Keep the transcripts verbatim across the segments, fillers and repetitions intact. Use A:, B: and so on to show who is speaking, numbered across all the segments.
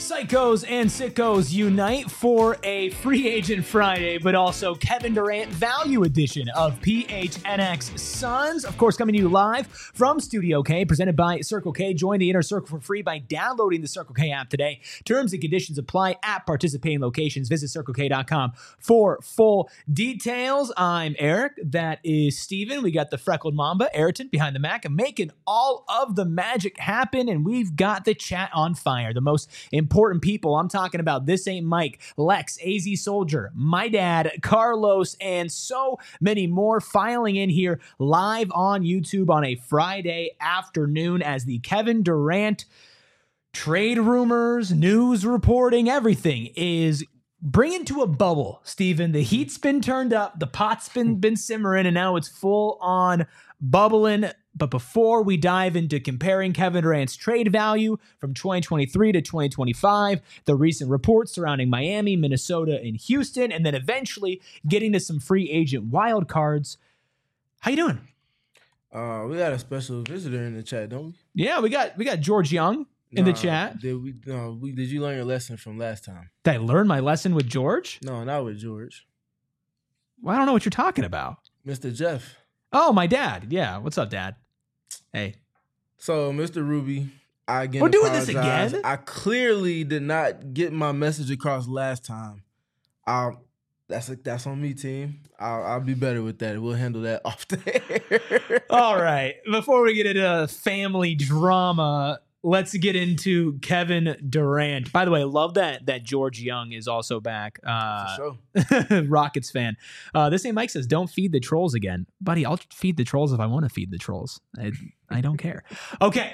A: Psychos and sickos unite for a free agent Friday, but also Kevin Durant value edition of P H N X Suns. Of course, coming to you live from Studio K, presented by Circle K. Join the Inner Circle for free by downloading the Circle K app today. Terms and conditions apply at participating locations. Visit circle k dot com for full details. I'm Eric. That is Steven. We got the freckled Mamba, Ayrton, behind the Mac, and making all of the magic happen. And we've got the chat on fire. The most important people. I'm talking about This Ain't Mike, Lex, A Z Soldier, my dad, Carlos, and so many more filing in here live on YouTube on a Friday afternoon as the Kevin Durant trade rumors, news reporting, everything is bringing to a bubble, Steven. The heat's been turned up, the pot's been, been simmering, and now it's full on bubbling. But before we dive into comparing Kevin Durant's trade value from twenty twenty-three to twenty twenty-five, the recent reports surrounding Miami, Minnesota, and Houston, and then eventually getting to some free agent wild cards, how you doing?
B: Uh, we got a special visitor in the chat, don't we?
A: Yeah, we got we got George Young in
B: nah,
A: the chat.
B: Did we? No, we. Did you learn your lesson from last time?
A: Did I learn my lesson with George?
B: No, not with George.
A: Well, I don't know what you're talking about.
B: Mister Jeff.
A: Oh, my dad. Yeah. What's up, Dad? Hey.
B: So, Mister Ruby, I again
A: We're doing
B: apologize.
A: this again?
B: I clearly did not get my message across last time. Um, that's a, that's on me, team. I'll, I'll be better with that. We'll handle that off the air.
A: All right. Before we get into family drama, let's get into Kevin Durant. By the way, I love that that George Young is also back. Uh,
B: For sure.
A: Rockets fan. Uh, this ain't Mike says, don't feed the trolls again. Buddy, I'll feed the trolls if I want to feed the trolls. I, I don't care. Okay.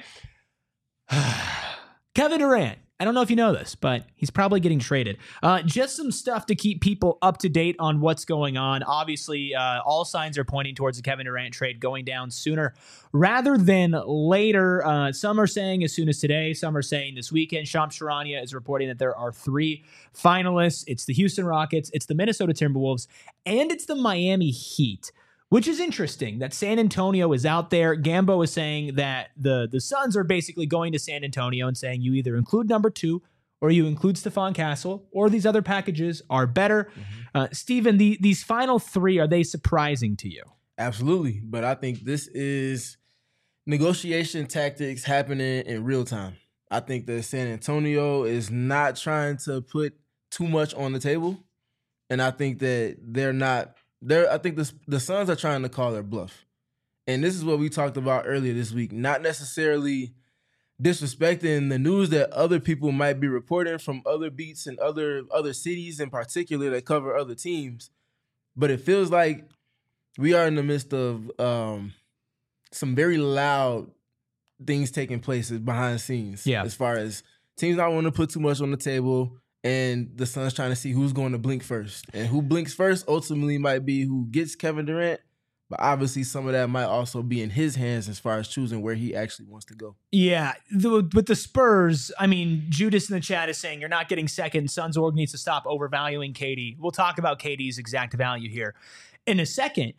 A: Kevin Durant. I don't know if you know this, but he's probably getting traded. Uh, just some stuff to keep people up to date on what's going on. Obviously, uh, all signs are pointing towards the Kevin Durant trade going down sooner rather than later. Uh, some are saying as soon as today. Some are saying this weekend. Shams Charania is reporting that there are three finalists. It's the Houston Rockets, it's the Minnesota Timberwolves, and it's the Miami Heat. Which is interesting that San Antonio is out there. Gambo is saying that the, the Suns are basically going to San Antonio and saying you either include number two or you include Stephon Castle or these other packages are better. Mm-hmm. Uh, Steven, the, these final three, are they surprising to you?
B: Absolutely. But I think this is negotiation tactics happening in real time. I think that San Antonio is not trying to put too much on the table. And I think that they're not They're, I think the, the Suns are trying to call their bluff. And this is what we talked about earlier this week. Not necessarily disrespecting the news that other people might be reporting from other beats and other, other cities in particular that cover other teams. But it feels like we are in the midst of um, some very loud things taking place behind the scenes.
A: Yeah.
B: As far as teams not wanting to put too much on the table, and the Suns trying to see who's going to blink first. And who blinks first ultimately might be who gets Kevin Durant. But obviously some of that might also be in his hands as far as choosing where he actually wants to go.
A: Yeah, the, with the Spurs, I mean, Judas in the chat is saying you're not getting second. Suns org needs to stop overvaluing K D. We'll talk about K D's exact value here in a second.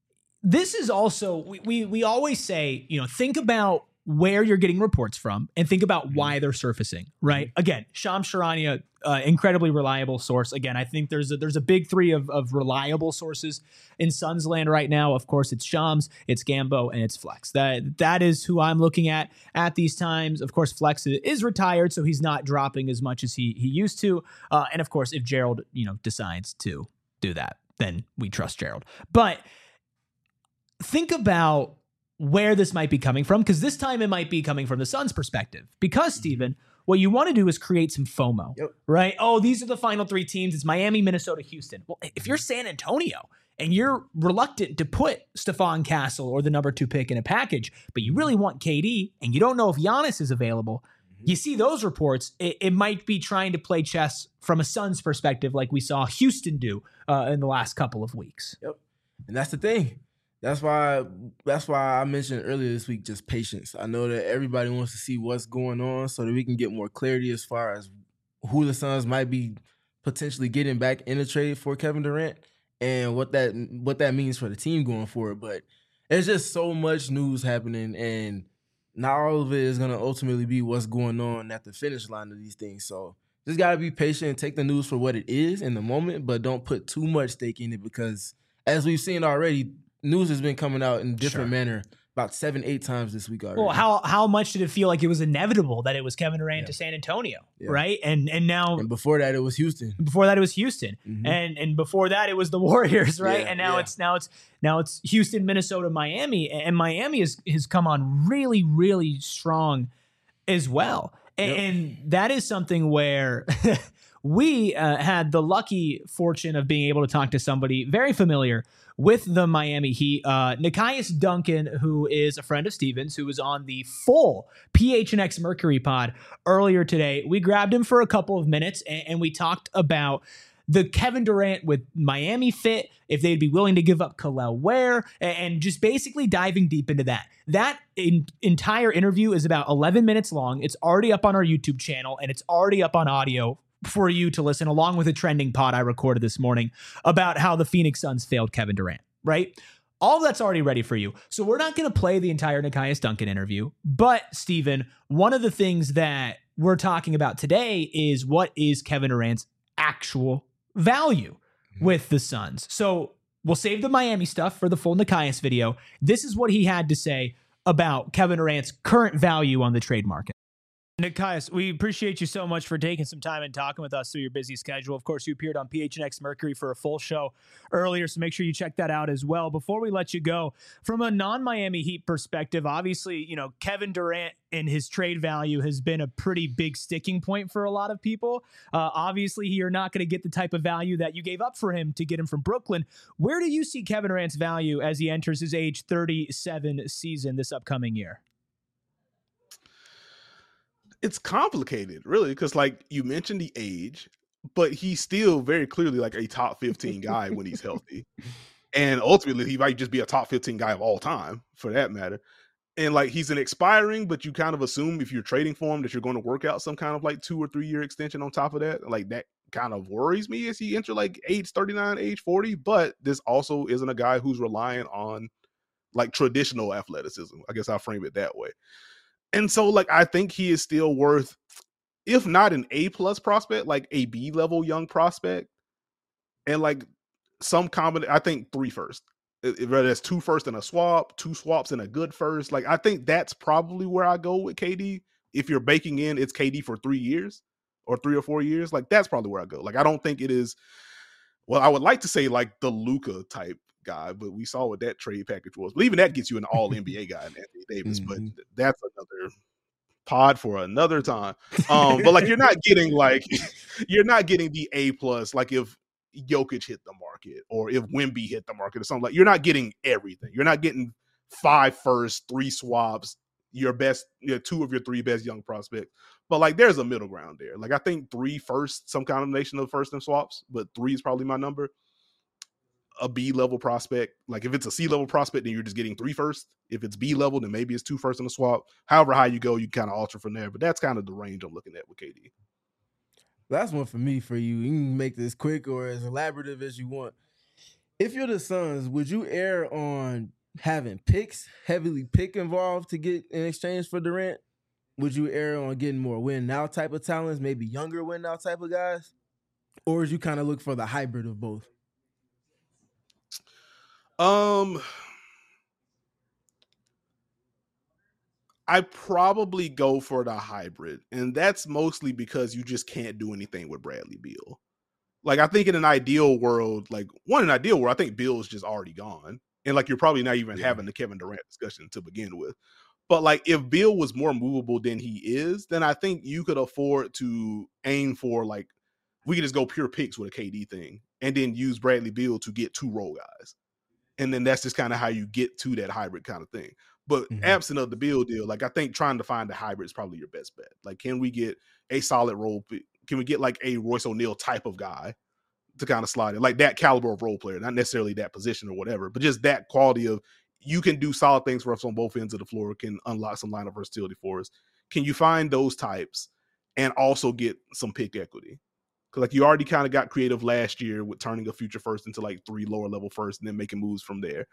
A: This is also, we we, we always say, you know, think about where you're getting reports from and think about why they're surfacing, right? Mm-hmm. Again, Shams Charania, uh, incredibly reliable source. Again, I think there's a, there's a big three of, of reliable sources in Suns land right now. Of course, it's Shams, it's Gambo, and it's Flex. That That is who I'm looking at at these times. Of course, Flex is retired, so he's not dropping as much as he he used to. Uh, and of course, if Gerald, you know, decides to do that, then we trust Gerald. But think about where this might be coming from, because this time it might be coming from the Suns' perspective. Because, Steven, what you want to do is create some FOMO,
B: yep.
A: right? Oh, these are the final three teams. It's Miami, Minnesota, Houston. Well, if you're San Antonio and you're reluctant to put Stephon Castle or the number two pick in a package, but you really want K D and you don't know if Giannis is available, mm-hmm. you see those reports, it, it might be trying to play chess from a Suns perspective like we saw Houston do uh, in the last couple of weeks.
B: Yep. And that's the thing. That's why that's why I mentioned earlier this week just patience. I know that everybody wants to see what's going on so that we can get more clarity as far as who the Suns might be potentially getting back in a trade for Kevin Durant and what that what that means for the team going forward. But there's just so much news happening, and not all of it is going to ultimately be what's going on at the finish line of these things. So just got to be patient and take the news for what it is in the moment, but don't put too much stake in it because as we've seen already, news has been coming out in different
A: Sure.
B: manner about seven, eight times this week already.
A: Well, how how much did it feel like it was inevitable that it was Kevin Durant
B: Yeah.
A: to San Antonio,
B: Yeah.
A: right? And and now
B: And before that, it was Houston.
A: before that it was Houston,
B: Mhm.
A: and and before that it was the Warriors, right?
B: Yeah,
A: and now
B: yeah.
A: it's now it's now it's Houston, Minnesota, Miami, and Miami has has come on really really strong as well, and,
B: Yep.
A: and that is something where. We uh, had the lucky fortune of being able to talk to somebody very familiar with the Miami Heat, uh, Nekias Duncan, who is a friend of Steven's, who was on the full P H N X Mercury pod earlier today. We grabbed him for a couple of minutes and, and we talked about the Kevin Durant with Miami fit, if they'd be willing to give up Khalil Ware, and, and just basically diving deep into that. That in, entire interview is about eleven minutes long. It's already up on our YouTube channel and it's already up on audio for you to listen, along with a trending pod I recorded this morning about how the Phoenix Suns failed Kevin Durant, right? All of that's already ready for you. So we're not going to play the entire Nekias Duncan interview, but Steven, one of the things that we're talking about today is what is Kevin Durant's actual value with the Suns. So we'll save the Miami stuff for the full Nekias video. This is what he had to say about Kevin Durant's current value on the trade market. Nekias, we appreciate you so much for taking some time and talking with us through your busy schedule. Of course, you appeared on P H N X Mercury for a full show earlier, so make sure you check that out as well. Before we let you go, from a non-Miami Heat perspective, obviously, you know, Kevin Durant and his trade value has been a pretty big sticking point for a lot of people. Uh, obviously, you're not going to get the type of value that you gave up for him to get him from Brooklyn. Where do you see Kevin Durant's value as he enters his age thirty-seven season this upcoming year?
C: It's complicated, really, because like you mentioned the age, but he's still very clearly like a top fifteen guy when he's healthy. And ultimately, he might just be a top fifteen guy of all time, for that matter. And like he's an expiring, but you kind of assume if you're trading for him that you're going to work out some kind of like two or three year extension on top of that. Like that kind of worries me as he enter like age thirty-nine, age forty. But this also isn't a guy who's relying on like traditional athleticism. I guess I'll frame it that way. And so, like, I think he is still worth, if not an A plus prospect, like a B level young prospect, and like some combination. I think three first, whether that's two first and a swap, two swaps and a good first. Like, I think that's probably where I go with K D. If you're baking in, it's K D for three years or three or four years. Like, that's probably where I go. Like, I don't think it is. Well, I would like to say like the Luka type guy, but we saw what that trade package was. But even that gets you an all N B A guy in Anthony Davis. Mm-hmm. But that's another pod for another time. Um, but like you're not getting like you're not getting the A plus like if Jokic hit the market or if Wemby hit the market or something. Like you're not getting everything. You're not getting five first, three swaps, your best, you know, two of your three best young prospects. But like there's a middle ground there. Like I think three first, some combination of first and swaps, but three is probably my number. A B level prospect. Like if it's a C level prospect, then you're just getting three first. If it's B level, then maybe it's two first and a swap. However high you go, you kind of alter from there. But that's kind of the range I'm looking at with K D.
B: That's one for me. For you, you can make this quick or as elaborative as you want. If you're the Suns, would you err on having picks, heavily pick involved to get in exchange for Durant? Would you err on getting more win now type of talents, maybe younger win now type of guys? Or would you kind of look for the hybrid of both?
C: Um, I probably go for the hybrid, and that's mostly because you just can't do anything with Bradley Beal. Like, I think in an ideal world, like one in an ideal world, I think Beal is just already gone, and like you're probably not even yeah. having the Kevin Durant discussion to begin with. But like, if Beal was more movable than he is, then I think you could afford to aim for like we could just go pure picks with a K D thing, and then use Bradley Beal to get two role guys. And then that's just kind of how you get to that hybrid kind of thing. But mm-hmm. absent of the Beal deal, like I think trying to find the hybrid is probably your best bet. Like, can we get a solid role? Can we get like a Royce O'Neal type of guy to kind of slide in? Like that caliber of role player, not necessarily that position or whatever, but just that quality of you can do solid things for us on both ends of the floor, can unlock some lineup versatility for us. Can you find those types and also get some pick equity? Because like you already kind of got creative last year with turning a future first into like three lower level first and then making moves from there.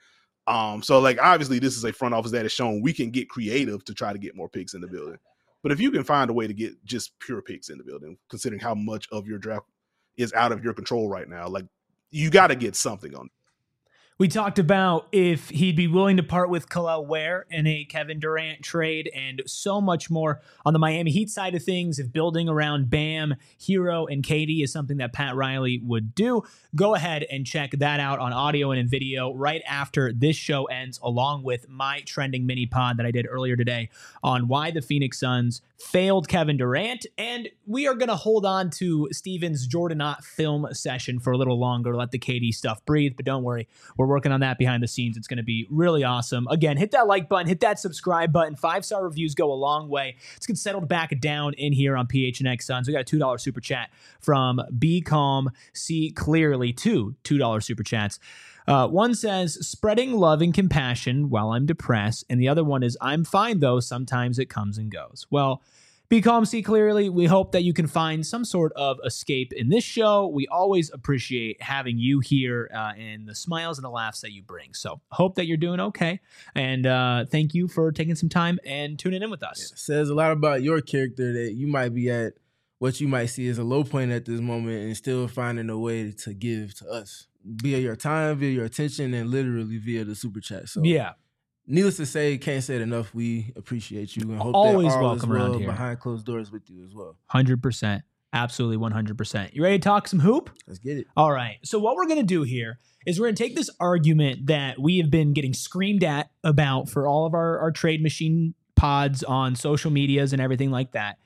C: Um, so like obviously this is a front office that has shown we can get creative to try to get more picks in the building. But if you can find a way to get just pure picks in the building, considering how much of your draft is out of your control right now, like you got to get something on.
A: We talked about if he'd be willing to part with Kel'el Ware in a Kevin Durant trade and so much more on the Miami Heat side of things. If building around Bam, Hero, and K D is something that Pat Riley would do, go ahead and check that out on audio and in video right after this show ends, along with my trending mini pod that I did earlier today on why the Phoenix Suns failed Kevin Durant. And we are going to hold on to Steven's Jordanot film session for a little longer, let the K D stuff breathe. But don't worry, we're working on that behind the scenes. It's going to be really awesome. Again, hit that like button, hit that subscribe button. Five-star reviews go a long way. Let's get settled back down in here on P H N X Suns. We got a two dollar super chat from Be Calm, See Clearly. Two two dollar super chats. Uh, one says, spreading love and compassion while I'm depressed. And the other one is, I'm fine, though. Sometimes it comes and goes. Well, Be Calm, See Clearly. We hope that you can find some sort of escape in this show. We always appreciate having you here uh, and the smiles and the laughs that you bring. So hope that you're doing okay. And uh, thank you for taking some time and tuning in with us.
B: It says a lot about your character that you might be at what you might see as a low point at this moment and still finding a way to give to us via your time, via your attention, and literally via the super chat. So
A: yeah.
B: Needless to say, can't say it enough. We appreciate you and hope
A: Always
B: that all
A: welcome
B: is well
A: around here.
B: behind closed doors with you as well.
A: one hundred percent. Absolutely one hundred percent. You ready to talk some hoop?
B: Let's get it.
A: All right. So what we're going to do here is we're going to take this argument that we have been getting screamed at about for all of our, our trade machine pods on social medias and everything like that.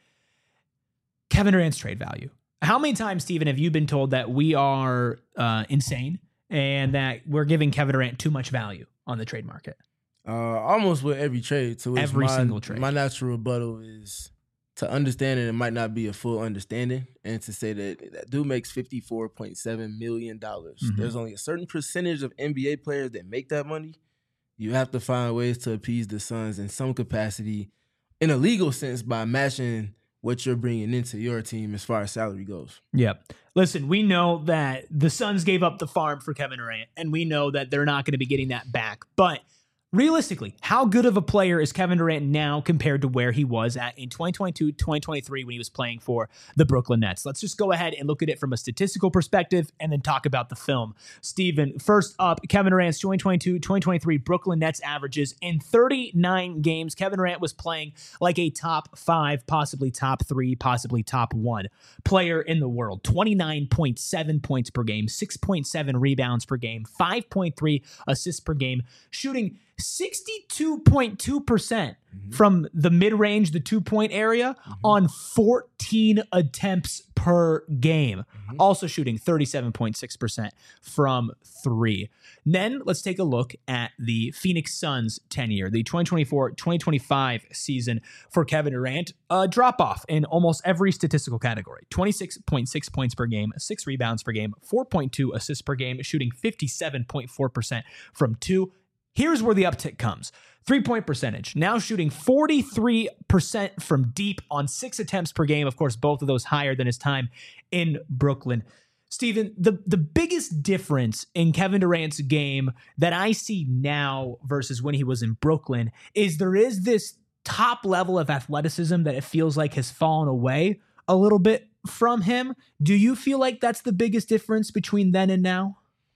A: Kevin Durant's trade value. How many times, Steven, have you been told that we are uh, insane and that we're giving Kevin Durant too much value on the trade market?
B: Uh, almost with every trade. To which
A: Every
B: my,
A: single trade.
B: My natural rebuttal is to understand it. It might not be a full understanding, and to say that that dude makes fifty-four point seven million dollars.
A: Mm-hmm.
B: There's only a certain percentage of N B A players that make that money. You have to find ways to appease the Suns in some capacity, in a legal sense, by matching what you're bringing into your team as far as salary goes.
A: Yep. Listen, we know that the Suns gave up the farm for Kevin Durant, and we know that they're not going to be getting that back. But realistically, how good of a player is Kevin Durant now compared to where he was at in twenty twenty-two, twenty twenty-three when he was playing for the Brooklyn Nets? Let's just go ahead and look at it from a statistical perspective and then talk about the film. Steven, first up, Kevin Durant's twenty twenty-two, twenty twenty-three Brooklyn Nets averages in thirty-nine games. Kevin Durant was playing like a top five, possibly top three, possibly top one player in the world. twenty-nine point seven points per game, six point seven rebounds per game, five point three assists per game, shooting sixty-two point two percent mm-hmm. from the mid-range, the two-point area, mm-hmm. on fourteen attempts per game. Mm-hmm. Also shooting thirty-seven point six percent from three. Then let's take a look at the Phoenix Suns tenure, the twenty twenty-four twenty twenty-five season for Kevin Durant. A drop-off in almost every statistical category. twenty-six point six points per game, six rebounds per game, four point two assists per game, shooting fifty-seven point four percent from two. Here's where the uptick comes. Three-point percentage, now shooting forty-three percent from deep on six attempts per game. Of course, both of those higher than his time in Brooklyn. Steven, the, the biggest difference in Kevin Durant's game that I see now versus when he was in Brooklyn is there is this top level of athleticism that it feels like has fallen away a little bit from him. Do you feel like that's the biggest difference between then and now?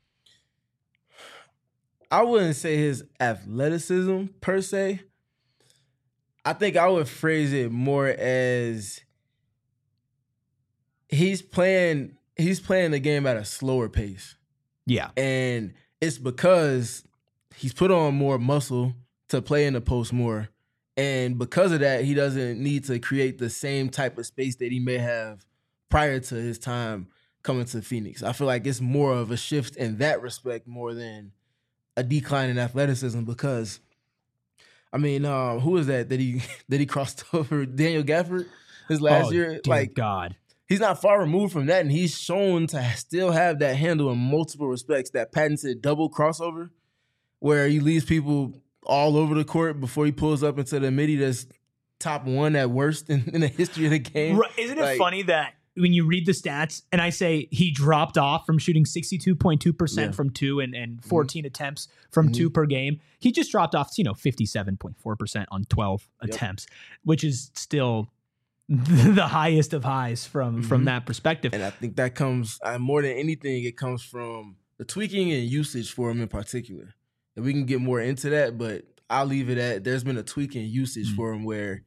B: I wouldn't say his athleticism per se. I think I would phrase it more as he's playing he's playing the game at a slower pace.
A: Yeah.
B: And it's because he's put on more muscle to play in the post more. And because of that, he doesn't need to create the same type of space that he may have prior to his time coming to Phoenix. I feel like it's more of a shift in that respect more than a decline in athleticism, because I mean, uh, who is that that he that he crossed over? Daniel Gafford his last
A: oh,
B: year.
A: Dear
B: like
A: God,
B: he's not far removed from that, and he's shown to still have that handle in multiple respects. That patented double crossover, where he leaves people all over the court before he pulls up into the midi. That's top one at worst in, in the history of the game.
A: Right. Isn't it
B: like,
A: funny that when you read the stats and I say he dropped off from shooting sixty-two point two percent
B: Yeah.
A: from two and, and fourteen mm-hmm. attempts from
B: Mm-hmm.
A: two per game, he just dropped off, you know, fifty-seven point four percent on twelve yep. attempts, which is still the highest of highs from, mm-hmm. from that perspective.
B: And I think that comes, uh, more than anything, it comes from the tweaking and usage for him in particular. And we can get more into that, but I'll leave it at there's been a tweak in usage mm-hmm. for him where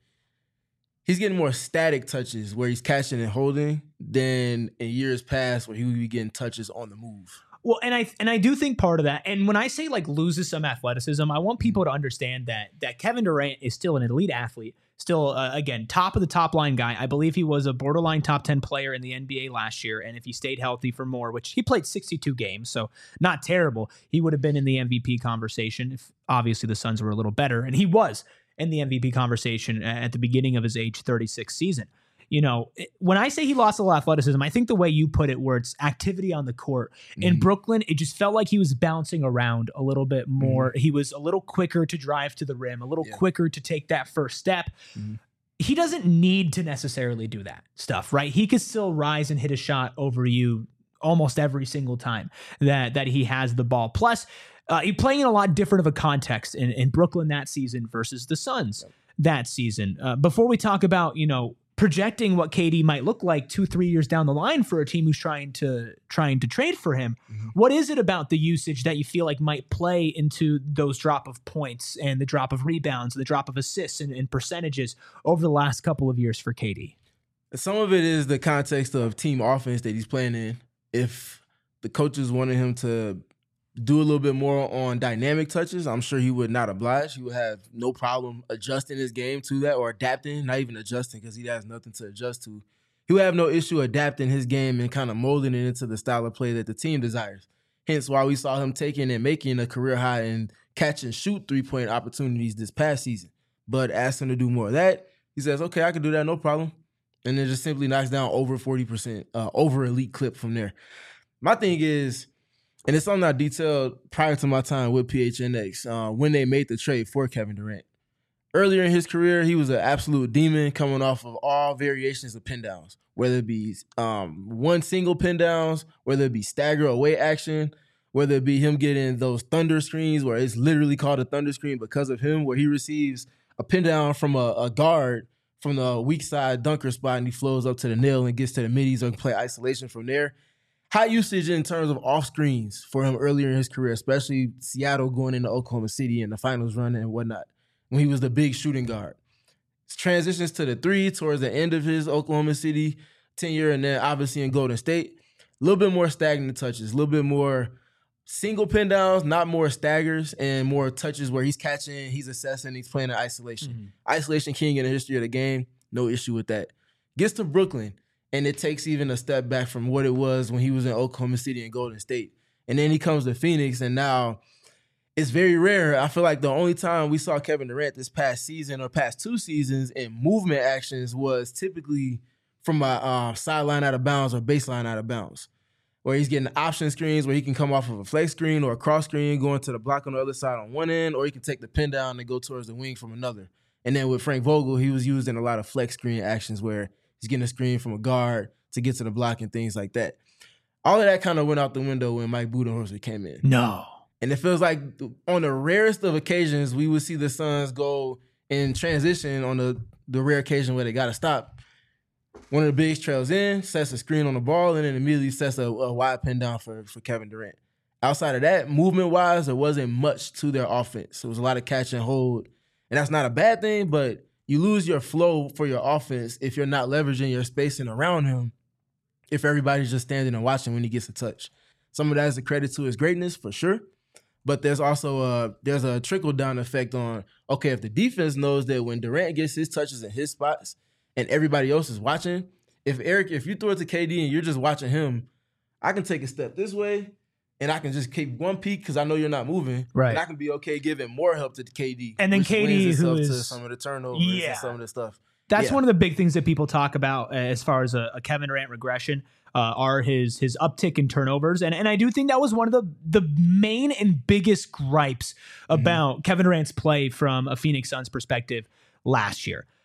B: he's getting more static touches where he's catching and holding than in years past where he would be getting touches on the move.
A: Well, and I and I do think part of that, and when I say like loses some athleticism, I want people to understand that that Kevin Durant is still an elite athlete, still, uh, again, top of the top line guy. I believe he was a borderline top ten player in the N B A last year, and if he stayed healthy for more, which he played sixty-two games, so not terrible, he would have been in the M V P conversation if obviously the Suns were a little better, and he was in the M V P conversation at the beginning of his age thirty-six season. You know, when I say he lost a little athleticism, I think the way you put it, where it's activity on the court mm-hmm. in Brooklyn, it just felt like he was bouncing around a little bit more. Mm-hmm. He was a little quicker to drive to the rim, a little yeah. quicker to take that first step. Mm-hmm. He doesn't need to necessarily do that stuff, right? He could still rise and hit a shot over you almost every single time that, that he has the ball. Plus, uh, he's playing in a lot different of a context in, in Brooklyn that season versus the Suns yep. that season. Uh, before we talk about, you know, projecting what K D might look like two, three years down the line for a team who's trying to trying to trade for him. Mm-hmm. What is it about the usage that you feel like might play into those drop of points and the drop of rebounds, the drop of assists and, and percentages over the last couple of years for K D?
B: Some of it is the context of team offense that he's playing in. If the coaches wanted him to do a little bit more on dynamic touches, I'm sure he would not oblige. He would have no problem adjusting his game to that or adapting, not even adjusting because he has nothing to adjust to. He would have no issue adapting his game and kind of molding it into the style of play that the team desires. Hence why we saw him taking and making a career high and catch and shoot three-point opportunities this past season. But ask him to do more of that. He says, okay, I can do that, no problem. And then just simply knocks down over forty percent, uh, over elite clip from there. My thing is, and it's something I detailed prior to my time with P H N X uh, when they made the trade for Kevin Durant. Earlier in his career, he was an absolute demon coming off of all variations of pin downs, whether it be um, one single pin downs, whether it be stagger away action, whether it be him getting those thunder screens where it's literally called a thunder screen because of him, where he receives a pin down from a, a guard from the weak side dunker spot and he flows up to the nail and gets to the middies or can play isolation from there. High usage in terms of off screens for him earlier in his career, especially Seattle going into Oklahoma City in the finals run and whatnot, when he was the big shooting guard. Transitions to the three towards the end of his Oklahoma City tenure and then obviously in Golden State. A little bit more stagnant touches, a little bit more single pin downs, not more staggers, and more touches where he's catching, he's assessing, he's playing in isolation. Mm-hmm. Isolation king in the history of the game, no issue with that. Gets to Brooklyn, and it takes even a step back from what it was when he was in Oklahoma City and Golden State. And then he comes to Phoenix, and now it's very rare. I feel like the only time we saw Kevin Durant this past season or past two seasons in movement actions was typically from a uh, sideline out of bounds or baseline out of bounds, where he's getting option screens where he can come off of a flex screen or a cross screen going to the block on the other side on one end, or he can take the pin down and go towards the wing from another. And then with Frank Vogel, he was used in a lot of flex screen actions where he's getting a screen from a guard to get to the block and things like that. All of that kind of went out the window when Mike Budenholzer came in.
A: No.
B: And it feels like on the rarest of occasions, we would see the Suns go in transition on the, the rare occasion where they got to stop. One of the bigs trails in, sets a screen on the ball, and then immediately sets a, a wide pin down for, for Kevin Durant. Outside of that, movement-wise, there wasn't much to their offense. It was a lot of catch and hold. And that's not a bad thing, but you lose your flow for your offense if you're not leveraging your spacing around him, if everybody's just standing and watching when he gets a touch. Some of that is a credit to his greatness, for sure. But there's also a, there's a trickle-down effect on, okay, if the defense knows that when Durant gets his touches in his spots and everybody else is watching, if Eric, if you throw it to K D and you're just watching him, I can take a step this way and I can just keep one peak because I know you're not moving.
A: Right.
B: And I can be okay giving more help to K D.
A: And then K D, who is
B: to some of the turnovers
A: yeah.
B: and some of the stuff.
A: That's
B: yeah.
A: one of the big things that people talk about as far as a, a Kevin Durant regression uh, are his his uptick in turnovers. And and I do think that was one of the, the main and biggest gripes about mm-hmm. Kevin Durant's play from a Phoenix Suns perspective last year.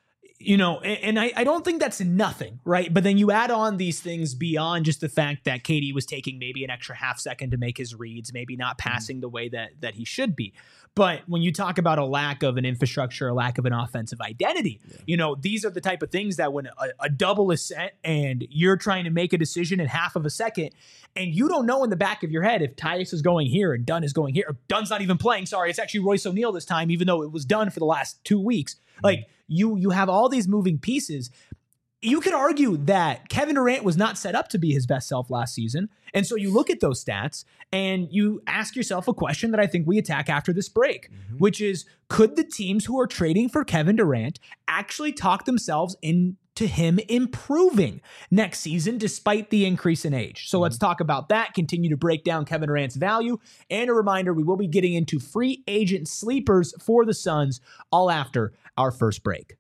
A: You know, and, and I, I don't think that's nothing, right? But then you add on these things beyond just the fact that K D was taking maybe an extra half second to make his reads, maybe not passing mm-hmm. the way that that he should be. But when you talk about a lack of an infrastructure, a lack of an offensive identity, yeah. you know, these are the type of things that when a, a double is set and you're trying to make a decision in half of a second, and you don't know in the back of your head if Tyus is going here and Dunn is going here, or Dunn's not even playing. Sorry, it's actually Royce O'Neal this time, even though it was Dunn for the last two weeks. Mm-hmm. Like you, you have all these moving pieces. You could argue that Kevin Durant was not set up to be his best self last season. And so you look at those stats and you ask yourself a question that I think we attack after this break, mm-hmm. which is, could the teams who are trading for Kevin Durant actually talk themselves into him improving next season despite the increase in age? So mm-hmm. let's talk about that, continue to break down Kevin Durant's value. And a reminder, we will be getting into free agent sleepers for the Suns all after our first break.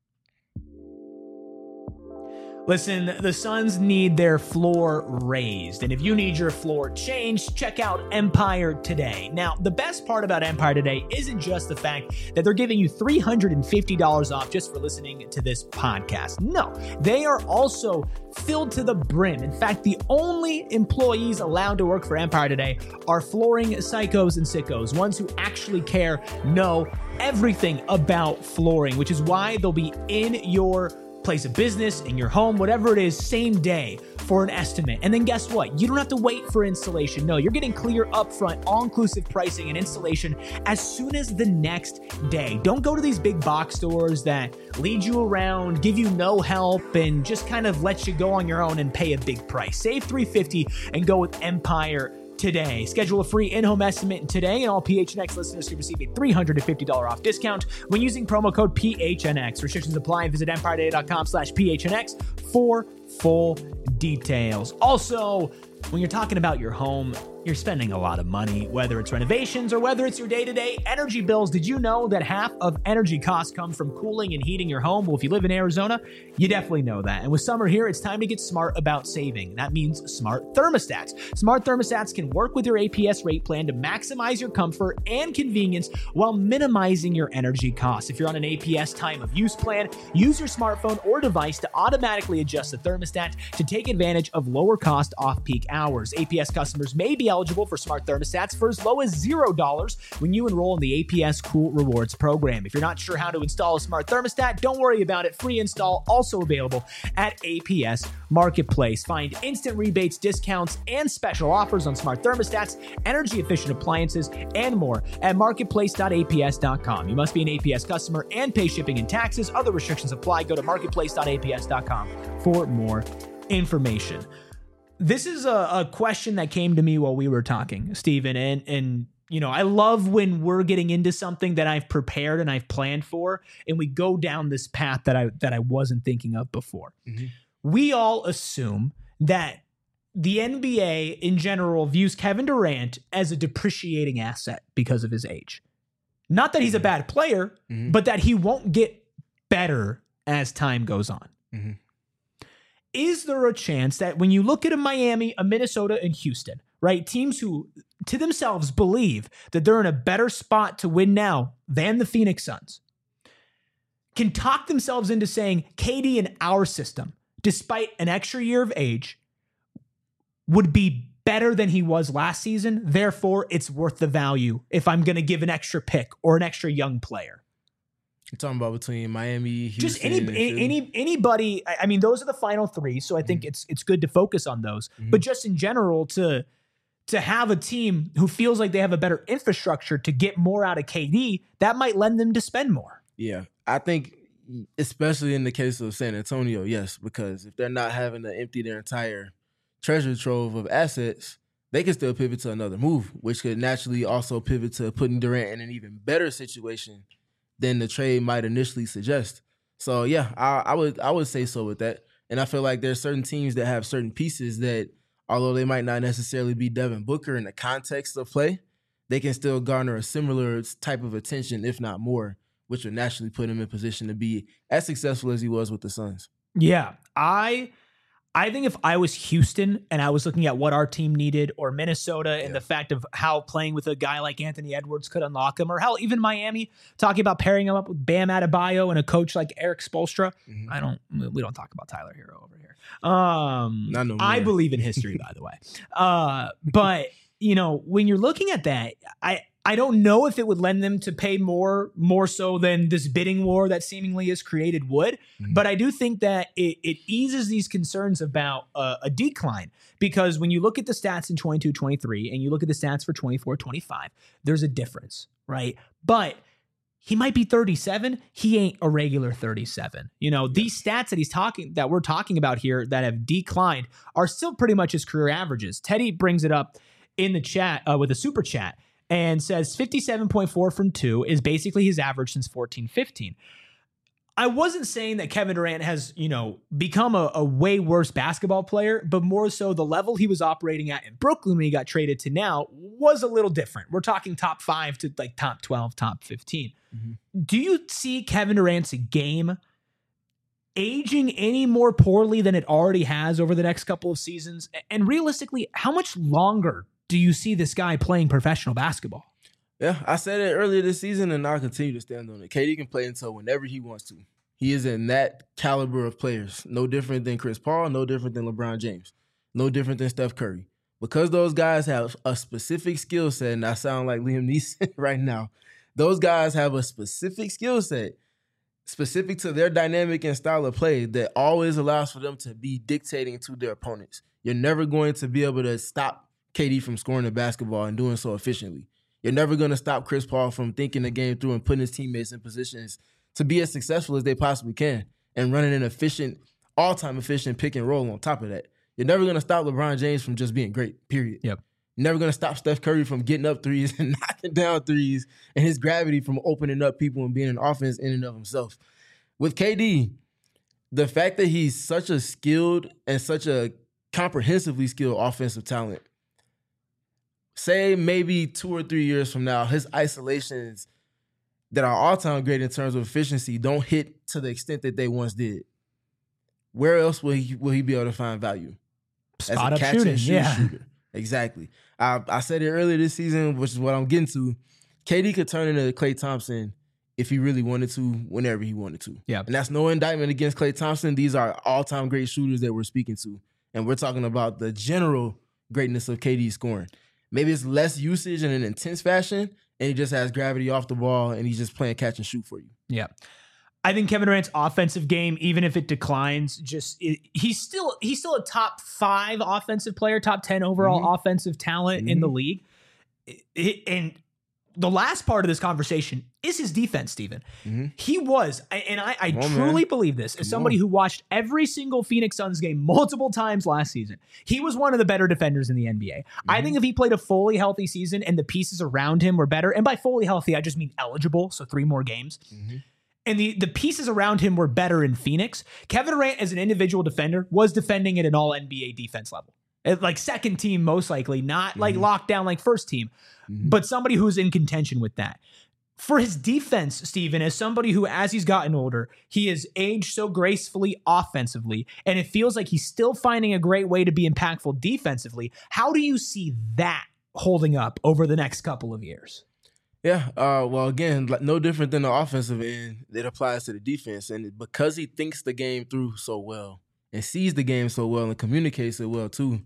A: Listen, the Suns need their floor raised, and if you need your floor changed, check out Empire Today. Now, the best part about Empire Today isn't just the fact that they're giving you three hundred fifty dollars off just for listening to this podcast. No, they are also filled to the brim. In fact, the only employees allowed to work for Empire Today are flooring psychos and sickos, ones who actually care, know everything about flooring, which is why they'll be in your place of business, in your home, whatever it is, same day for an estimate. And then guess what? You don't have to wait for installation. No, you're getting clear upfront, all-inclusive pricing and installation as soon as the next day. Don't go to these big box stores that lead you around, give you no help, and just kind of let you go on your own and pay a big price. Save three hundred fifty dollars and go with Empire Today. Schedule a free in-home estimate today, and all P H N X listeners can receive a three hundred fifty dollars off discount when using promo code P H N X. Restrictions apply. Visit empire today dot com slash P H N X for full details. Also, when you're talking about your home, you're spending a lot of money, whether it's renovations or whether it's your day-to-day energy bills. Did you know that half of energy costs come from cooling and heating your home? Well, if you live in Arizona, you definitely know that. And with summer here, it's time to get smart about saving. That means smart thermostats. Smart thermostats can work with your A P S rate plan to maximize your comfort and convenience while minimizing your energy costs. If you're on an A P S time of use plan, use your smartphone or device to automatically adjust the thermostat to take advantage of lower cost off-peak hours. A P S customers may be eligible for smart thermostats for as low as zero dollars when you enroll in the A P S Cool Rewards program. If you're not sure how to install a smart thermostat, don't worry about it. Free install also available at A P S Marketplace. Find instant rebates, discounts, and special offers on smart thermostats, energy efficient appliances, and more at marketplace dot A P S dot com. You must be an A P S customer and pay shipping and taxes. Other restrictions apply. Go to marketplace dot A P S dot com for more information. This is a, a question that came to me while we were talking, Steven, and, and, you know, I love when we're getting into something that I've prepared and I've planned for, and we go down this path that I, that I wasn't thinking of before. Mm-hmm. We all assume that the N B A in general views Kevin Durant as a depreciating asset because of his age. Not that he's a bad player, mm-hmm. but that he won't get better as time goes on. Mm-hmm. Is there a chance that when you look at a Miami, a Minnesota, and Houston, right, teams who to themselves believe that they're in a better spot to win now than the Phoenix Suns, can talk themselves into saying K D in our system, despite an extra year of age, would be better than he was last season, therefore it's worth the value if I'm going to give an extra pick or an extra young player?
B: You're talking about between Miami, Houston,
A: just any any anybody. I mean, those are the final three, so I think mm-hmm. it's it's good to focus on those. Mm-hmm. But just in general, to to have a team who feels like they have a better infrastructure to get more out of K D, that might lend them to spend more.
B: Yeah, I think, especially in the case of San Antonio, yes, because if they're not having to empty their entire treasure trove of assets, they can still pivot to another move, which could naturally also pivot to putting Durant in an even better situation than the trade might initially suggest. So yeah, I, I would I would say so with that. And I feel like there's certain teams that have certain pieces that, although they might not necessarily be Devin Booker in the context of play, they can still garner a similar type of attention, if not more, which would naturally put him in position to be as successful as he was with the Suns.
A: Yeah, I I think if I was Houston and I was looking at what our team needed, or Minnesota and
B: Yeah.
A: the fact of how playing with a guy like Anthony Edwards could unlock him, or hell, even Miami talking about pairing him up with Bam Adebayo and a coach like Eric Spoelstra.
B: Mhm.
A: I don't, we don't talk about Tyler Hero over here. Um,
B: Not no
A: I
B: more.
A: believe in history, by the way. Uh, but you know, when you're looking at that, I, I don't know if it would lend them to pay more, more so than this bidding war that seemingly is created would.
B: Mhm.
A: But I do think that it, it eases these concerns about uh, a decline, because when you look at the stats in twenty-two twenty-three and you look at the stats for twenty-four twenty-five, there's a difference, right? But he might be thirty-seven. He ain't a regular thirty-seven. You know, these stats that he's talking, that we're talking about here that have declined are still pretty much his career averages. Teddy brings it up in the chat uh, with a super chat and says fifty-seven point four from two is basically his average since fourteen fifteen. I wasn't saying that Kevin Durant has, you know, become a, a way worse basketball player, but more so the level he was operating at in Brooklyn when he got traded to now was a little different. We're talking top five to like top twelve, top fifteen.
B: Mhm.
A: Do you see Kevin Durant's game aging any more poorly than it already has over the next couple of seasons? And realistically, how much longer do you see this guy playing professional basketball?
B: Yeah, I said it earlier this season, and I'll continue to stand on it. K D can play until whenever he wants to. He is in that caliber of players. No different than Chris Paul, no different than LeBron James, no different than Steph Curry. Because those guys have a specific skill set, and I sound like Liam Neeson right now, those guys have a specific skill set, specific to their dynamic and style of play, that always allows for them to be dictating to their opponents. You're never going to be able to stop K D from scoring the basketball and doing so efficiently. You're never going to stop Chris Paul from thinking the game through and putting his teammates in positions to be as successful as they possibly can and running an efficient, all-time efficient pick and roll on top of that. You're never going to stop LeBron James from just being great, period.
A: Yep.
B: You're never going to stop Steph Curry from getting up threes and knocking down threes, and his gravity from opening up people and being an offense in and of himself. With K D, the fact that he's such a skilled and such a comprehensively skilled offensive talent, say maybe two or three years from now, his isolations that are all-time great in terms of efficiency don't hit to the extent that they once did. Where else will he will he be able to find value?
A: Spot up
B: catch and
A: shooting,
B: shoot
A: yeah.
B: shooter. Exactly. I, I said it earlier this season, which is what I'm getting to. K D could turn into Klay Thompson if he really wanted to, whenever he wanted to.
A: Yeah.
B: And that's no indictment against Klay Thompson. These are all-time great shooters that we're speaking to. And we're talking about the general greatness of K D's scoring. Maybe it's less usage in an intense fashion, and he just has gravity off the ball, and he's just playing catch and shoot for you.
A: Yeah. I think Kevin Durant's offensive game, even if it declines, just it, he's still he's still a top five offensive player, top ten overall
B: Mhm.
A: offensive talent
B: Mhm.
A: in the league. It- it- and the last part of this conversation is his defense, Steven.
B: Mhm.
A: He was, I- and I, I
B: Come on,
A: truly
B: man.
A: believe this, as
B: Come
A: somebody
B: on.
A: who watched every single Phoenix Suns game multiple times last season. He was one of the better defenders in the N B A. I
B: Mhm.
A: think if he played a fully healthy season and the pieces around him were better, and by fully healthy, I just mean eligible, so three more games,
B: Mhm.
A: and the, the pieces around him were better in Phoenix, Kevin Durant as an individual defender was defending at an all N B A defense level. At like second team, most likely, not like
B: Mhm.
A: lockdown like first team,
B: Mhm.
A: but somebody who's in contention with that. For his defense, Steven, as somebody who, as he's gotten older, he has aged so gracefully offensively, and it feels like he's still finding a great way to be impactful defensively. How do you see that holding up over the next couple of years?
B: Yeah, uh, well, again, like, no different than the offensive end, it applies to the defense. And because he thinks the game through so well and sees the game so well and communicates it well too,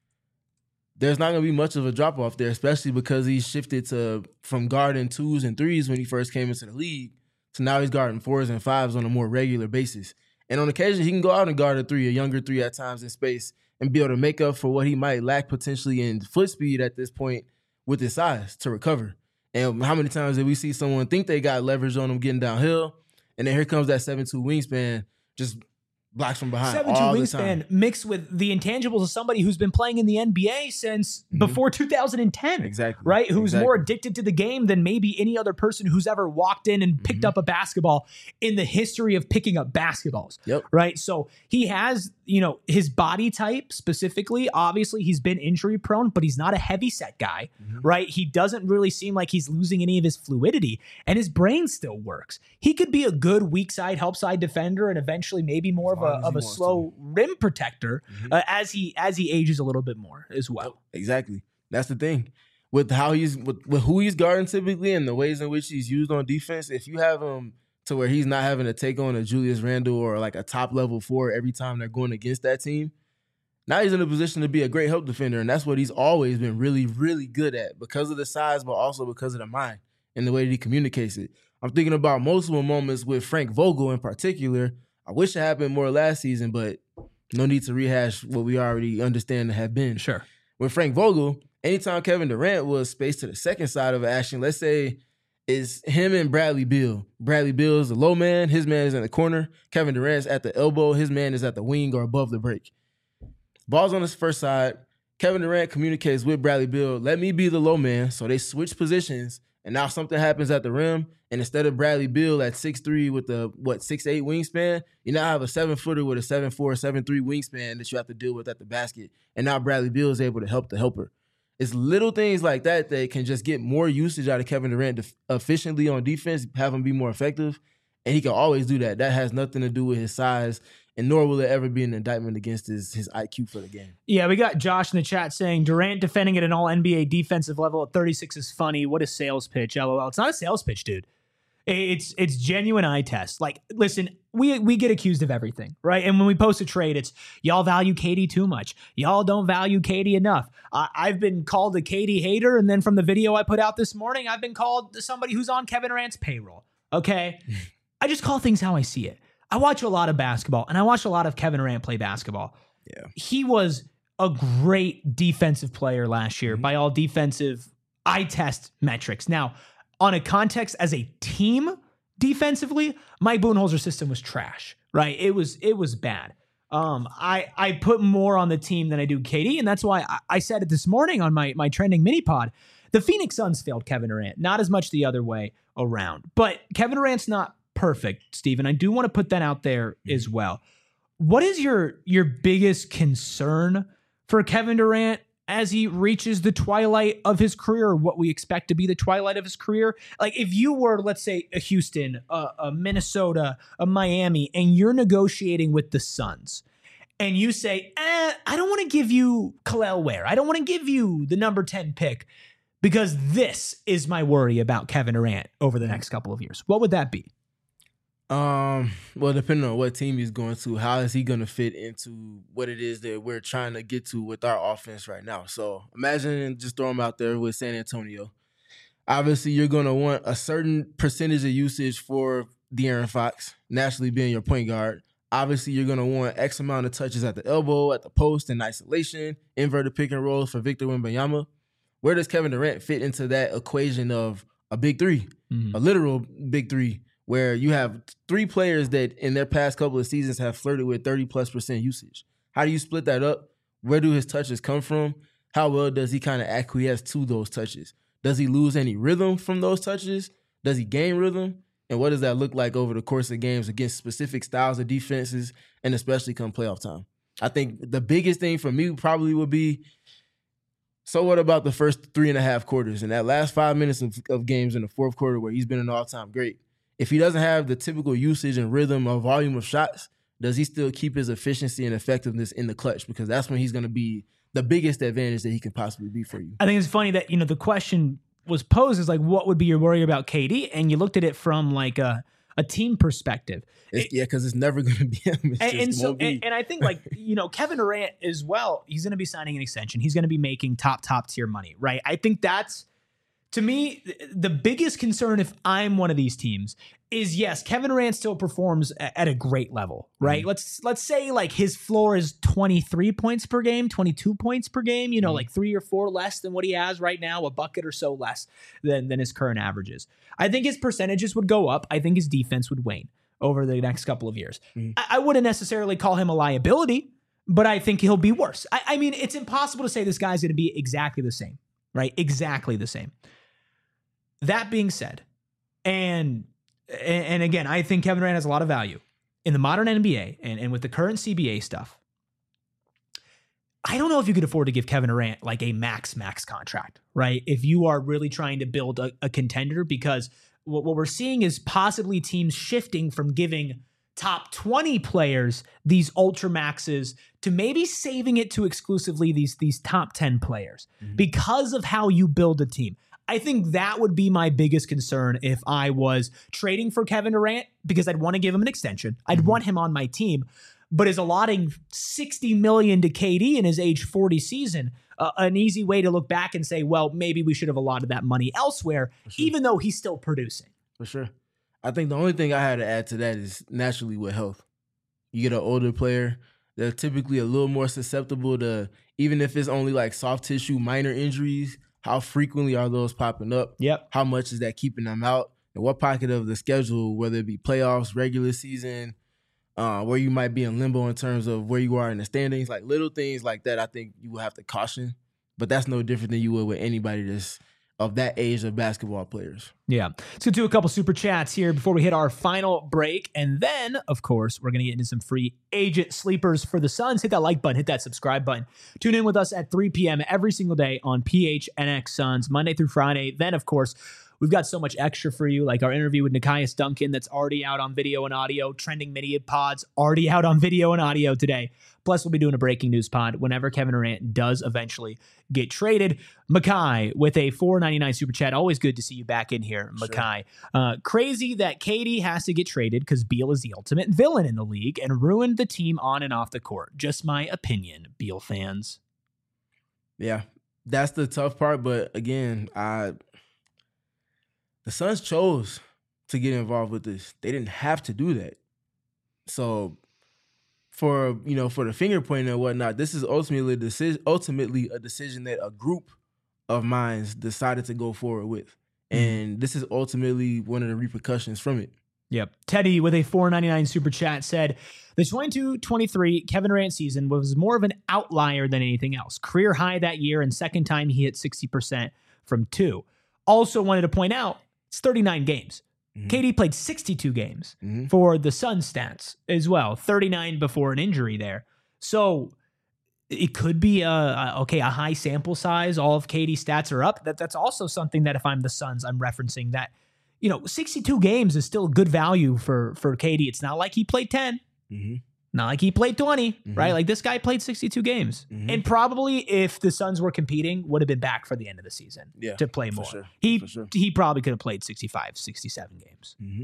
B: there's not going to be much of a drop-off there, especially because he shifted to from guarding twos and threes when he first came into the league to now he's guarding fours and fives on a more regular basis. And on occasion, he can go out and guard a three, a younger three at times in space, and be able to make up for what he might lack potentially in foot speed at this point with his size to recover. And how many times did we see someone think they got leverage on them getting downhill, and then here comes that seven two wingspan, just blocks from behind
A: seven two
B: all the time.
A: wingspan mixed with the intangibles of somebody who's been playing in the N B A since
B: Mhm.
A: before two thousand ten.
B: Exactly.
A: Right? Who's
B: Exactly.
A: more addicted to the game than maybe any other person who's ever walked in and picked
B: Mhm.
A: up a basketball in the history of picking up basketballs.
B: Yep.
A: Right? So he has, you know, his body type specifically, obviously he's been injury prone, but he's not a heavy set guy,
B: Mhm.
A: right? He doesn't really seem like he's losing any of his fluidity, and his brain still works. He could be a good weak side, help side defender and eventually maybe more of of a of a slow to. rim protector mm-hmm. uh, as he as he ages a little bit more as well.
B: Exactly. That's the thing. With how he's with, with who he's guarding typically and the ways in which he's used on defense, if you have him to where he's not having to take on a Julius Randle or like a top level four every time they're going against that team, now he's in a position to be a great help defender, and that's what he's always been really, really good at because of the size, but also because of the mind and the way that he communicates it. I'm thinking about multiple moments with Frank Vogel in particular. I wish it happened more last season, but no need to rehash what we already understand to have been.
A: Sure.
B: With Frank Vogel, anytime Kevin Durant was spaced to the second side of action, let's say it's him and Bradley Beal. Bradley Beal is the low man. His man is in the corner. Kevin Durant's at the elbow. His man is at the wing or above the break. Ball's on his first side. Kevin Durant communicates with Bradley Beal, let me be the low man. So they switch positions, and now something happens at the rim, and instead of Bradley Beal at six three with the, what, six eight wingspan, you now have a seven-footer with a seven four, seven three wingspan that you have to deal with at the basket, and now Bradley Beal is able to help the helper. It's little things like that that can just get more usage out of Kevin Durant efficiently on defense, have him be more effective, and he can always do that. That has nothing to do with his size, and nor will it ever be an indictment against his, his I Q for the game.
A: Yeah, we got Josh in the chat saying, Durant defending at an all-N B A defensive level at thirty-six is funny. What a sales pitch, LOL. It's not a sales pitch, dude. It's it's genuine eye test. Like, listen, we we get accused of everything, right? And when we post a trade, it's y'all value K D too much. Y'all don't value K D enough. I, I've been called a K D hater, and then from the video I put out this morning, I've been called somebody who's on Kevin Durant's payroll, okay? I just call things how I see it. I watch a lot of basketball, and I watch a lot of Kevin Durant play basketball.
B: Yeah,
A: he was a great defensive player last year mm-hmm. by all defensive eye test metrics. Now, on a context as a team defensively, Mike Budenholzer's system was trash, right? It was it was bad. Um, I I put more on the team than I do K D, and that's why I, I said it this morning on my my trending mini pod. The Phoenix Suns failed Kevin Durant, not as much the other way around. But Kevin Durant's not perfect, Steven. I do want to put that out there mm-hmm. as well. What is your your biggest concern for Kevin Durant as he reaches the twilight of his career, or what we expect to be the twilight of his career? Like, if you were, let's say, a Houston, a, a Minnesota, a Miami, and you're negotiating with the Suns, and you say, eh, I don't want to give you Kel'el Ware. I don't want to give you the number ten pick because this is my worry about Kevin Durant over the next couple of years. What would that be?
B: Um, well, depending on what team he's going to, how is he going to fit into what it is that we're trying to get to with our offense right now? So imagine just throw him out there with San Antonio. Obviously, you're going to want a certain percentage of usage for De'Aaron Fox, naturally being your point guard. Obviously, you're going to want X amount of touches at the elbow, at the post, in isolation, inverted pick and rolls for Victor Wembanyama. Where does Kevin Durant fit into that equation of a big three, mm-hmm. a literal big three, where you have three players that in their past couple of seasons have flirted with thirty plus percent usage? How do you split that up? Where do his touches come from? How well does he kind of acquiesce to those touches? Does he lose any rhythm from those touches? Does he gain rhythm? And what does that look like over the course of games against specific styles of defenses, and especially come playoff time? I think the biggest thing for me probably would be, so what about the first three and a half quarters and that last five minutes of, of games in the fourth quarter where he's been an all-time great? If he doesn't have the typical usage and rhythm or volume of shots, does he still keep his efficiency and effectiveness in the clutch? Because that's when he's going to be the biggest advantage that he can possibly be for you.
A: I think it's funny that, you know, the question was posed is like, what would be your worry about K D? And you looked at it from like a, a team perspective.
B: It's,
A: it,
B: yeah, because it's never going to be him. It's
A: and,
B: just
A: and so,
B: won't be.
A: And, and I think like, you know, Kevin Durant as well, he's going to be signing an extension. He's going to be making top, top tier money, right? I think that's, to me, the biggest concern if I'm one of these teams is, yes, Kevin Durant still performs at a great level, right? Mm-hmm. Let's let's say like his floor is twenty-three points per game, twenty-two points per game, you know, mm-hmm. like three or four less than what he has right now, a bucket or so less than, than his current averages. I think his percentages would go up. I think his defense would wane over the next couple of years. Mm-hmm. I, I wouldn't necessarily call him a liability, but I think he'll be worse. I, I mean, it's impossible to say this guy's going to be exactly the same, right? Exactly the same. That being said, and and again, I think Kevin Durant has a lot of value in the modern N B A and, and with the current C B A stuff. I don't know if you could afford to give Kevin Durant like a max, max contract, right? If you are really trying to build a, a contender, because what, what we're seeing is possibly teams shifting from giving top twenty players, these ultra maxes, to maybe saving it to exclusively these, these top ten players mm-hmm. because of how you build a team. I think that would be my biggest concern if I was trading for Kevin Durant, because I'd want to give him an extension. I'd mm-hmm. want him on my team, but is allotting sixty million dollars to K D in his age forty season uh, an easy way to look back and say, well, maybe we should have allotted that money elsewhere, sure. even though he's still producing.
B: For sure. I think the only thing I had to add to that is naturally with health. You get an older player, they're typically a little more susceptible to, even if it's only like soft tissue, minor injuries, how frequently are those popping up?
A: Yep.
B: How much is that keeping them out? And what pocket of the schedule, whether it be playoffs, regular season, uh, where you might be in limbo in terms of where you are in the standings, like little things like that, I think you will have to caution. But that's no different than you would with anybody that's of that age of basketball players.
A: Yeah. Let's get to a couple super chats here before we hit our final break. And then, of course, we're going to get into some free agent sleepers for the Suns. Hit that like button, hit that subscribe button. Tune in with us at three p.m. every single day on P H N X Suns, Monday through Friday. Then, of course, we've got so much extra for you, like our interview with Nekias Duncan that's already out on video and audio, Trending Media Pods already out on video and audio today. Plus, we'll be doing a breaking news pod whenever Kevin Durant does eventually get traded. Makai with a four ninety-nine super chat. Always good to see you back in here, Makai. Sure. Uh, crazy that K D has to get traded because Beal is the ultimate villain in the league and ruined the team on and off the court. Just my opinion, Beal fans.
B: Yeah, that's the tough part. But again, I the Suns chose to get involved with this. They didn't have to do that. So for, you know, for the finger pointing and whatnot, this is ultimately a decision, ultimately a decision that a group of minds decided to go forward with. And mm. this is ultimately one of the repercussions from it.
A: Yep. Teddy with a four ninety-nine super chat said, the twenty-two twenty-three Kevin Durant season was more of an outlier than anything else. Career high that year and second time he hit sixty percent from two. Also wanted to point out, it's thirty-nine games. Mm-hmm. K D played sixty-two games mm-hmm. for the Suns stats as well, thirty-nine before an injury there. So it could be a, a okay, a high sample size. All of K D's stats are up. That that's also something that if I'm the Suns, I'm referencing that, you know, sixty-two games is still good value for for K D. It's not like he played ten. Mm-hmm. Not like he played twenty, mm-hmm. right? Like this guy played sixty-two games. Mm-hmm. And probably if the Suns were competing, would have been back for the end of the season yeah, to play more.
B: Sure,
A: he
B: sure.
A: he probably could have played sixty-five, sixty-seven games.
B: Mm-hmm.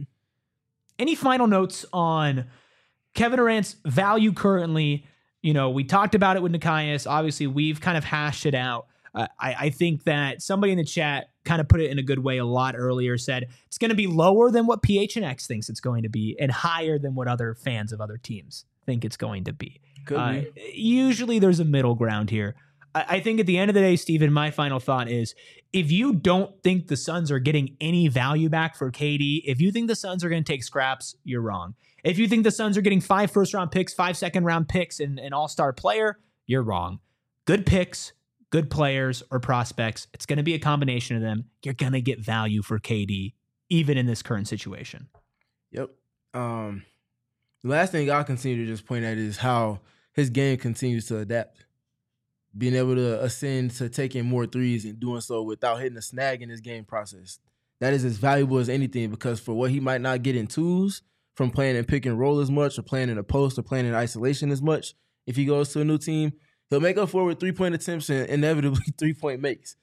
A: Any final notes on Kevin Durant's value currently? You know, we talked about it with Nekias. Obviously, we've kind of hashed it out. Uh, I, I think that somebody in the chat kind of put it in a good way a lot earlier, said it's going to be lower than what P H N X thinks it's going to be and higher than what other fans of other teams think it's going to be.
B: Could
A: uh,
B: be.
A: Usually there's a middle ground here. I, I think at the end of the day, Steven, my final thought is if you don't think the Suns are getting any value back for K D, if you think the Suns are going to take scraps, you're wrong. If you think the Suns are getting five first round picks, five second round picks, and an all-star player, you're wrong. Good picks, good players or prospects, it's going to be a combination of them. You're going to get value for K D, even in this current situation.
B: Yep. Um, the last thing I'll continue to just point at is how his game continues to adapt. Being able to ascend to taking more threes and doing so without hitting a snag in his game process. That is as valuable as anything because for what he might not get in twos from playing in pick and roll as much or playing in a post or playing in isolation as much, if he goes to a new team, he'll make up for it with three-point attempts and inevitably three-point makes.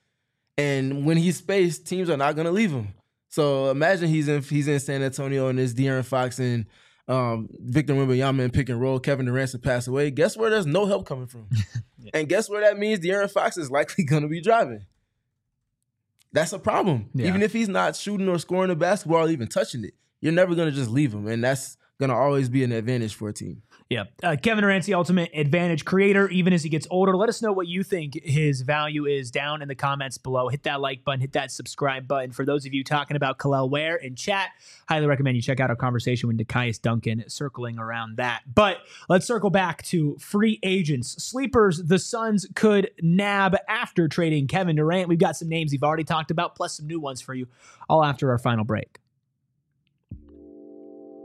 B: And when he's spaced, teams are not going to leave him. So imagine he's in he's in San Antonio and there's De'Aaron Fox and um, Victor Wembanyama in pick and roll. Kevin Durant to pass away. Guess where there's no help coming from? yeah. And guess where that means De'Aaron Fox is likely going to be driving. That's a problem. Yeah. Even if he's not shooting or scoring the basketball or even touching it, you're never going to just leave him. And that's going to always be an advantage for a team.
A: Yeah. Uh, Kevin Durant's the ultimate advantage creator, even as he gets older. Let us know what you think his value is down in the comments below. Hit that like button, hit that subscribe button. For those of you talking about Kel'el Ware in chat, highly recommend you check out our conversation with Nekias Duncan circling around that. But let's circle back to free agents. Sleepers the Suns could nab after trading Kevin Durant. We've got some names you've already talked about, plus some new ones for you, all after our final break.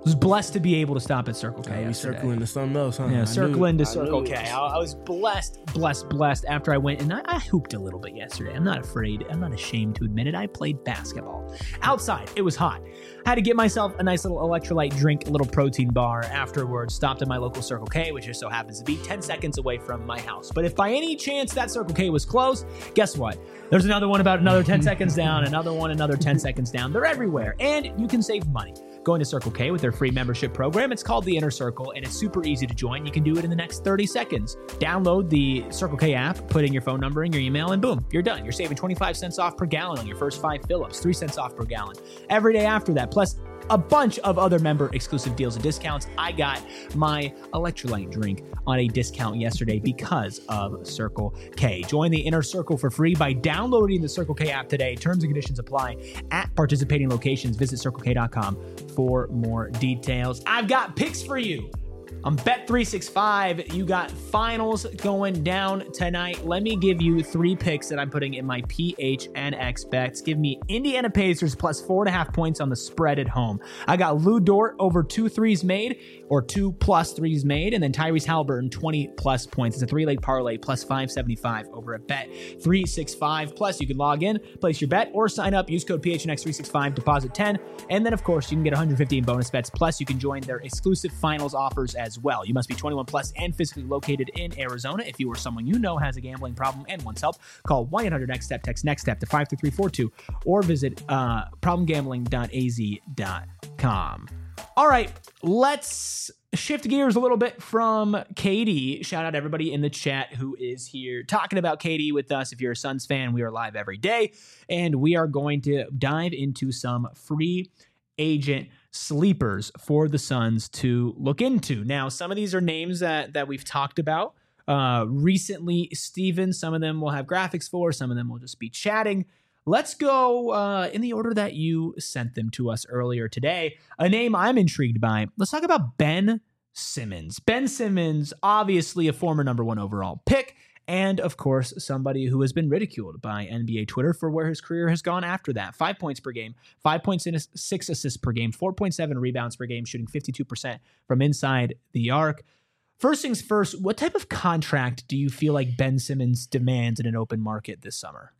A: was blessed to be able to stop at Circle K
B: Yeah, we
A: yesterday.
B: circling to something else, huh?
A: Yeah,
B: I
A: circling
B: knew-
A: to
B: I
A: Circle
B: knew
A: K.
B: it.
A: I, I was blessed, blessed, blessed after I went, and I, I hooped a little bit yesterday. I'm not afraid. I'm not ashamed to admit it. I played basketball. Outside, it was hot. I had to get myself a nice little electrolyte drink, a little protein bar afterwards. Stopped at my local Circle K, which just so happens to be ten seconds away from my house. But if by any chance that Circle K was closed, guess what? There's another one about another ten seconds down, another one, another ten seconds down. They're everywhere, and you can save money going to Circle K with their free membership program. It's called the Inner Circle, and it's super easy to join. You can do it in the next thirty seconds. Download the Circle K app, put in your phone number and your email, and boom, you're done. You're saving twenty-five cents off per gallon on your first five fill-ups, three cents off per gallon every day after that, plus a bunch of other member exclusive deals and discounts. I got my electrolyte drink on a discount yesterday because of Circle K. Join the Inner Circle for free by downloading the Circle K app today. Terms and conditions apply at participating locations. Visit circle k dot com for more details. I've got picks for you. On Bet three sixty-five, you got finals going down tonight. Let me give you three picks that I'm putting in my P H N X bets. Give me Indiana Pacers plus four and a half points on the spread at home. I got Lou Dort over two threes made, or two plus threes made, and then Tyrese Halliburton twenty plus points. It's a three-leg parlay plus five seventy-five over at Bet three sixty-five. Plus, you can log in, place your bet, or sign up. Use code P H N X three sixty-five, deposit ten, and then of course you can get one hundred fifty in bonus bets. Plus, you can join their exclusive finals offers as well. You must be twenty-one plus and physically located in Arizona. If you or someone you know has a gambling problem and wants help, call one eight hundred next step, text next step to five three three four two, or visit uh, problem gambling dot a z dot com. All right, let's shift gears a little bit from K D. Shout out everybody in the chat who is here talking about K D with us. If you're a Suns fan, we are live every day, and we are going to dive into some free agent sleepers for the Suns to look into. Now, some of these are names that that we've talked about uh, recently, Steven. Some of them will have graphics for, some of them will just be chatting. Let's go uh, in the order that you sent them to us earlier today. A name I'm intrigued by. Let's talk about Ben Simmons. Ben Simmons, obviously a former number one overall pick, and of course, somebody who has been ridiculed by N B A Twitter for where his career has gone after that. Five points per game, five point six assists per game, four point seven rebounds per game, shooting fifty-two percent from inside the arc. First things first, what type of contract do you feel like Ben Simmons demands in an open market this summer?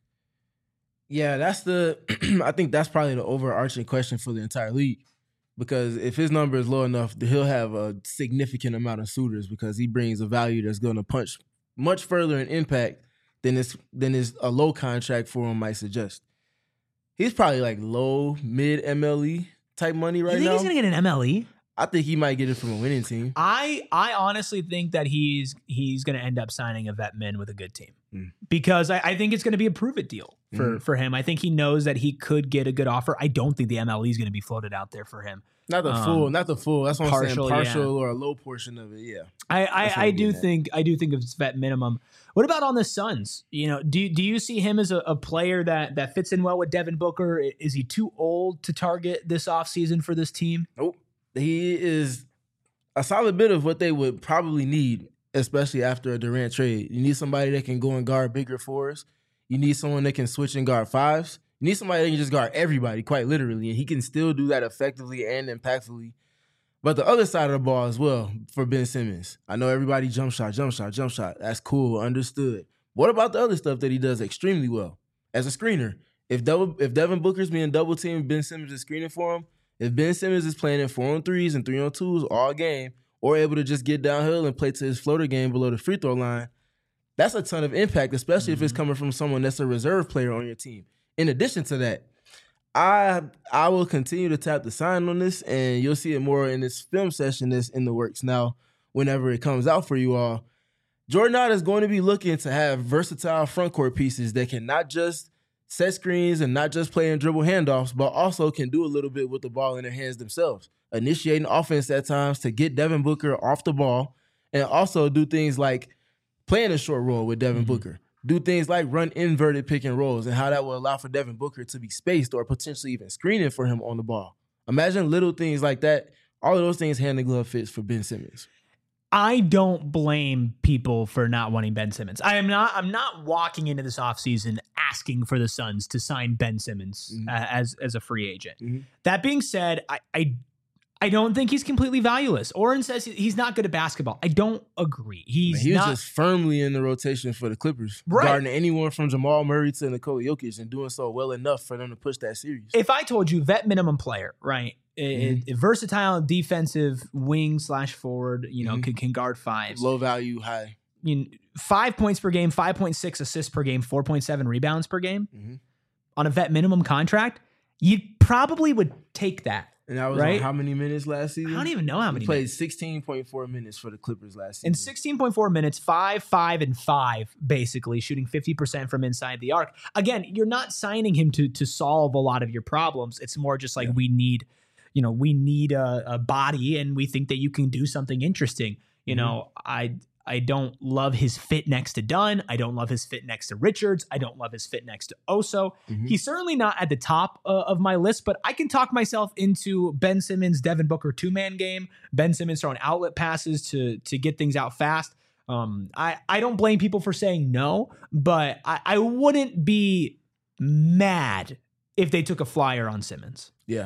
B: Yeah, that's the, I think that's probably the overarching question for the entire league. Because if his number is low enough, he'll have a significant amount of suitors because he brings a value that's going to punch much further in impact than this than is a low contract for him might suggest. He's probably like low, mid M L E type money right now.
A: You think
B: now.
A: he's going to get an M L E?
B: I think he might get it from a winning team.
A: I I honestly think that he's he's going to end up signing a vet min with a good team
B: mm.
A: because I, I think it's going to be a prove it deal for, mm. for him. I think he knows that he could get a good offer. I don't think the M L E is going to be floated out there for him.
B: Not the
A: um,
B: full, not the full. That's what
A: partial,
B: I'm saying. Partial
A: yeah.
B: or a low portion of it. Yeah.
A: I I, I do think I do think of his vet minimum. What about on the Suns? You know, do do you see him as a, a player that that fits in well with Devin Booker? Is he too old to target this offseason for this team?
B: Nope. He is a solid bit of what they would probably need, especially after a Durant trade. You need somebody that can go and guard bigger fours. You need someone that can switch and guard fives. You need somebody that can just guard everybody, quite literally, and he can still do that effectively and impactfully. But the other side of the ball as well for Ben Simmons. I know everybody jump shot, jump shot, jump shot. That's cool, understood. What about the other stuff that he does extremely well as a screener? If double, if Devin Booker's being double teamed, Ben Simmons is screening for him. If Ben Simmons is playing in four on threes and three on twos all game, or able to just get downhill and play to his floater game below the free throw line, that's a ton of impact, especially mm-hmm. if it's coming from someone that's a reserve player on your team. In addition to that, I I will continue to tap the sign on this, and you'll see it more in this film session that's in the works now whenever it comes out for you all. Jordan Knott is going to be looking to have versatile front court pieces that can not just set screens and not just play and dribble handoffs, but also can do a little bit with the ball in their hands themselves, initiating offense at times to get Devin Booker off the ball, and also do things like playing a short roll with Devin mm-hmm. Booker. Do things like run inverted pick and rolls and how that will allow for Devin Booker to be spaced or potentially even screening for him on the ball. Imagine little things like that. All of those things hand in glove fits for Ben Simmons.
A: I don't blame people for not wanting Ben Simmons. I am not I'm not walking into this offseason asking for the Suns to sign Ben Simmons mm-hmm. uh, as, as a free agent. Mm-hmm. That being said, I, I I don't think he's completely valueless. Oren says he's not good at basketball. I don't agree. He's
B: he was
A: not,
B: just firmly in the rotation for the Clippers,
A: right.
B: guarding anyone from Jamal Murray to Nikola Jokic and doing so well enough for them to push that series.
A: If I told you vet minimum player, right, mm-hmm. a, a versatile defensive wing slash forward, you know, mm-hmm. can, can guard fives.
B: Low value, high.
A: You know, five points per game, five point six assists per game, four point seven rebounds per game mm-hmm. on a vet minimum contract, you probably would take that.
B: And that was
A: right?
B: on how many minutes last season?
A: I don't even know how many.
B: He played
A: minutes.
B: sixteen point four minutes for the Clippers last season.
A: In sixteen point four minutes, five, five, and five, basically, shooting fifty percent from inside the arc. Again, you're not signing him to to solve a lot of your problems. It's more just like yeah. we need, you know, we need a, a body, and we think that you can do something interesting. You mm-hmm. know, I I don't love his fit next to Dunn. I don't love his fit next to Richards. I don't love his fit next to Oso. Mm-hmm. He's certainly not at the top uh, of my list, but I can talk myself into Ben Simmons, Devin Booker two-man game. Ben Simmons throwing outlet passes to, to get things out fast. Um, I, I don't blame people for saying no, but I, I wouldn't be mad if they took a flyer on Simmons.
B: Yeah.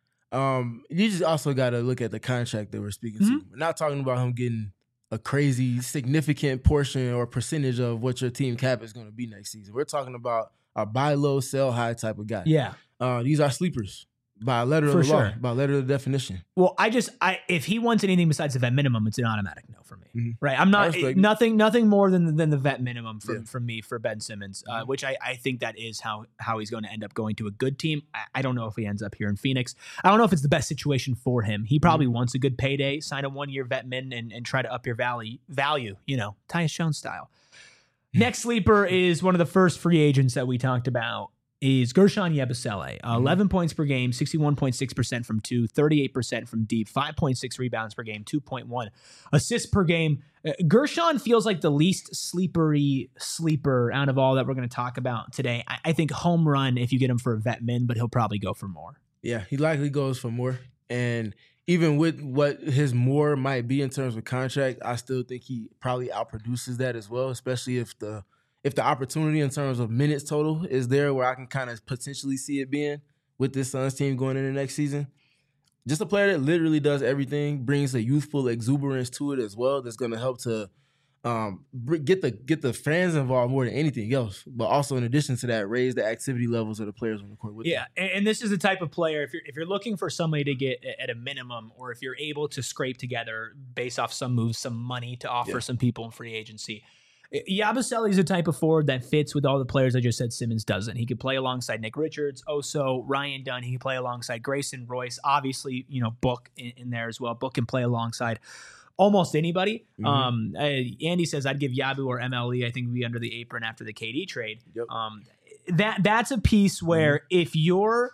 B: Um, you just also got to look at the contract that we're speaking mm-hmm. to. We're not talking about him getting a crazy significant portion or percentage of what your team cap is going to be next season. We're talking about a buy low, sell high type of guy.
A: Yeah.
B: Uh, these are sleepers by letter
A: for
B: of the
A: sure.
B: law, by letter of the definition.
A: Well, I just, I if he wants anything besides the vet minimum, it's an automatic no for me. Mm-hmm. Right. I'm not, nothing nothing more than, than the vet minimum from, yeah. from me for Ben Simmons, uh, mm-hmm. which I, I think that is how, how he's going to end up going to a good team. I, I don't know if he ends up here in Phoenix. I don't know if it's the best situation for him. He probably mm-hmm. wants a good payday, sign a one-year vet min and, and try to up your value, value, you know, Tyus Jones style. Next sleeper is one of the first free agents that we talked about. Is Guerschon Yabusele. Uh, mm-hmm. eleven points per game, sixty-one point six percent from two, thirty-eight percent from deep, five point six rebounds per game, two point one assists per game. Uh, Guerschon feels like the least sleepery sleeper out of all that we're going to talk about today. I, I think home run if you get him for a vet min, but he'll probably go for more.
B: Yeah, he likely goes for more. And even with what his more might be in terms of contract, I still think he probably outproduces that as well, especially if the If the opportunity in terms of minutes total is there where I can kind of potentially see it being with this Suns team going into next season. Just a player that literally does everything, brings a youthful exuberance to it as well that's going to help to um, get the get the fans involved more than anything else. But also in addition to that, raise the activity levels of the players on the court with
A: yeah,
B: them.
A: And this is the type of player, if you're, if you're looking for somebody to get at a minimum or if you're able to scrape together based off some moves, some money to offer yeah. some people in free agency, Yabusele is a type of forward that fits with all the players I just said Simmons doesn't. He could play alongside Nick Richards, Oso, Ryan Dunn. He can play alongside Grayson, Royce. Obviously, you know, Book in, in there as well. Book can play alongside almost anybody. Mm-hmm. Um, uh, Andy says I'd give Yabu or M L E. I think would be under the apron after the K D trade.
B: Yep.
A: Um, that that's a piece where mm-hmm. if you're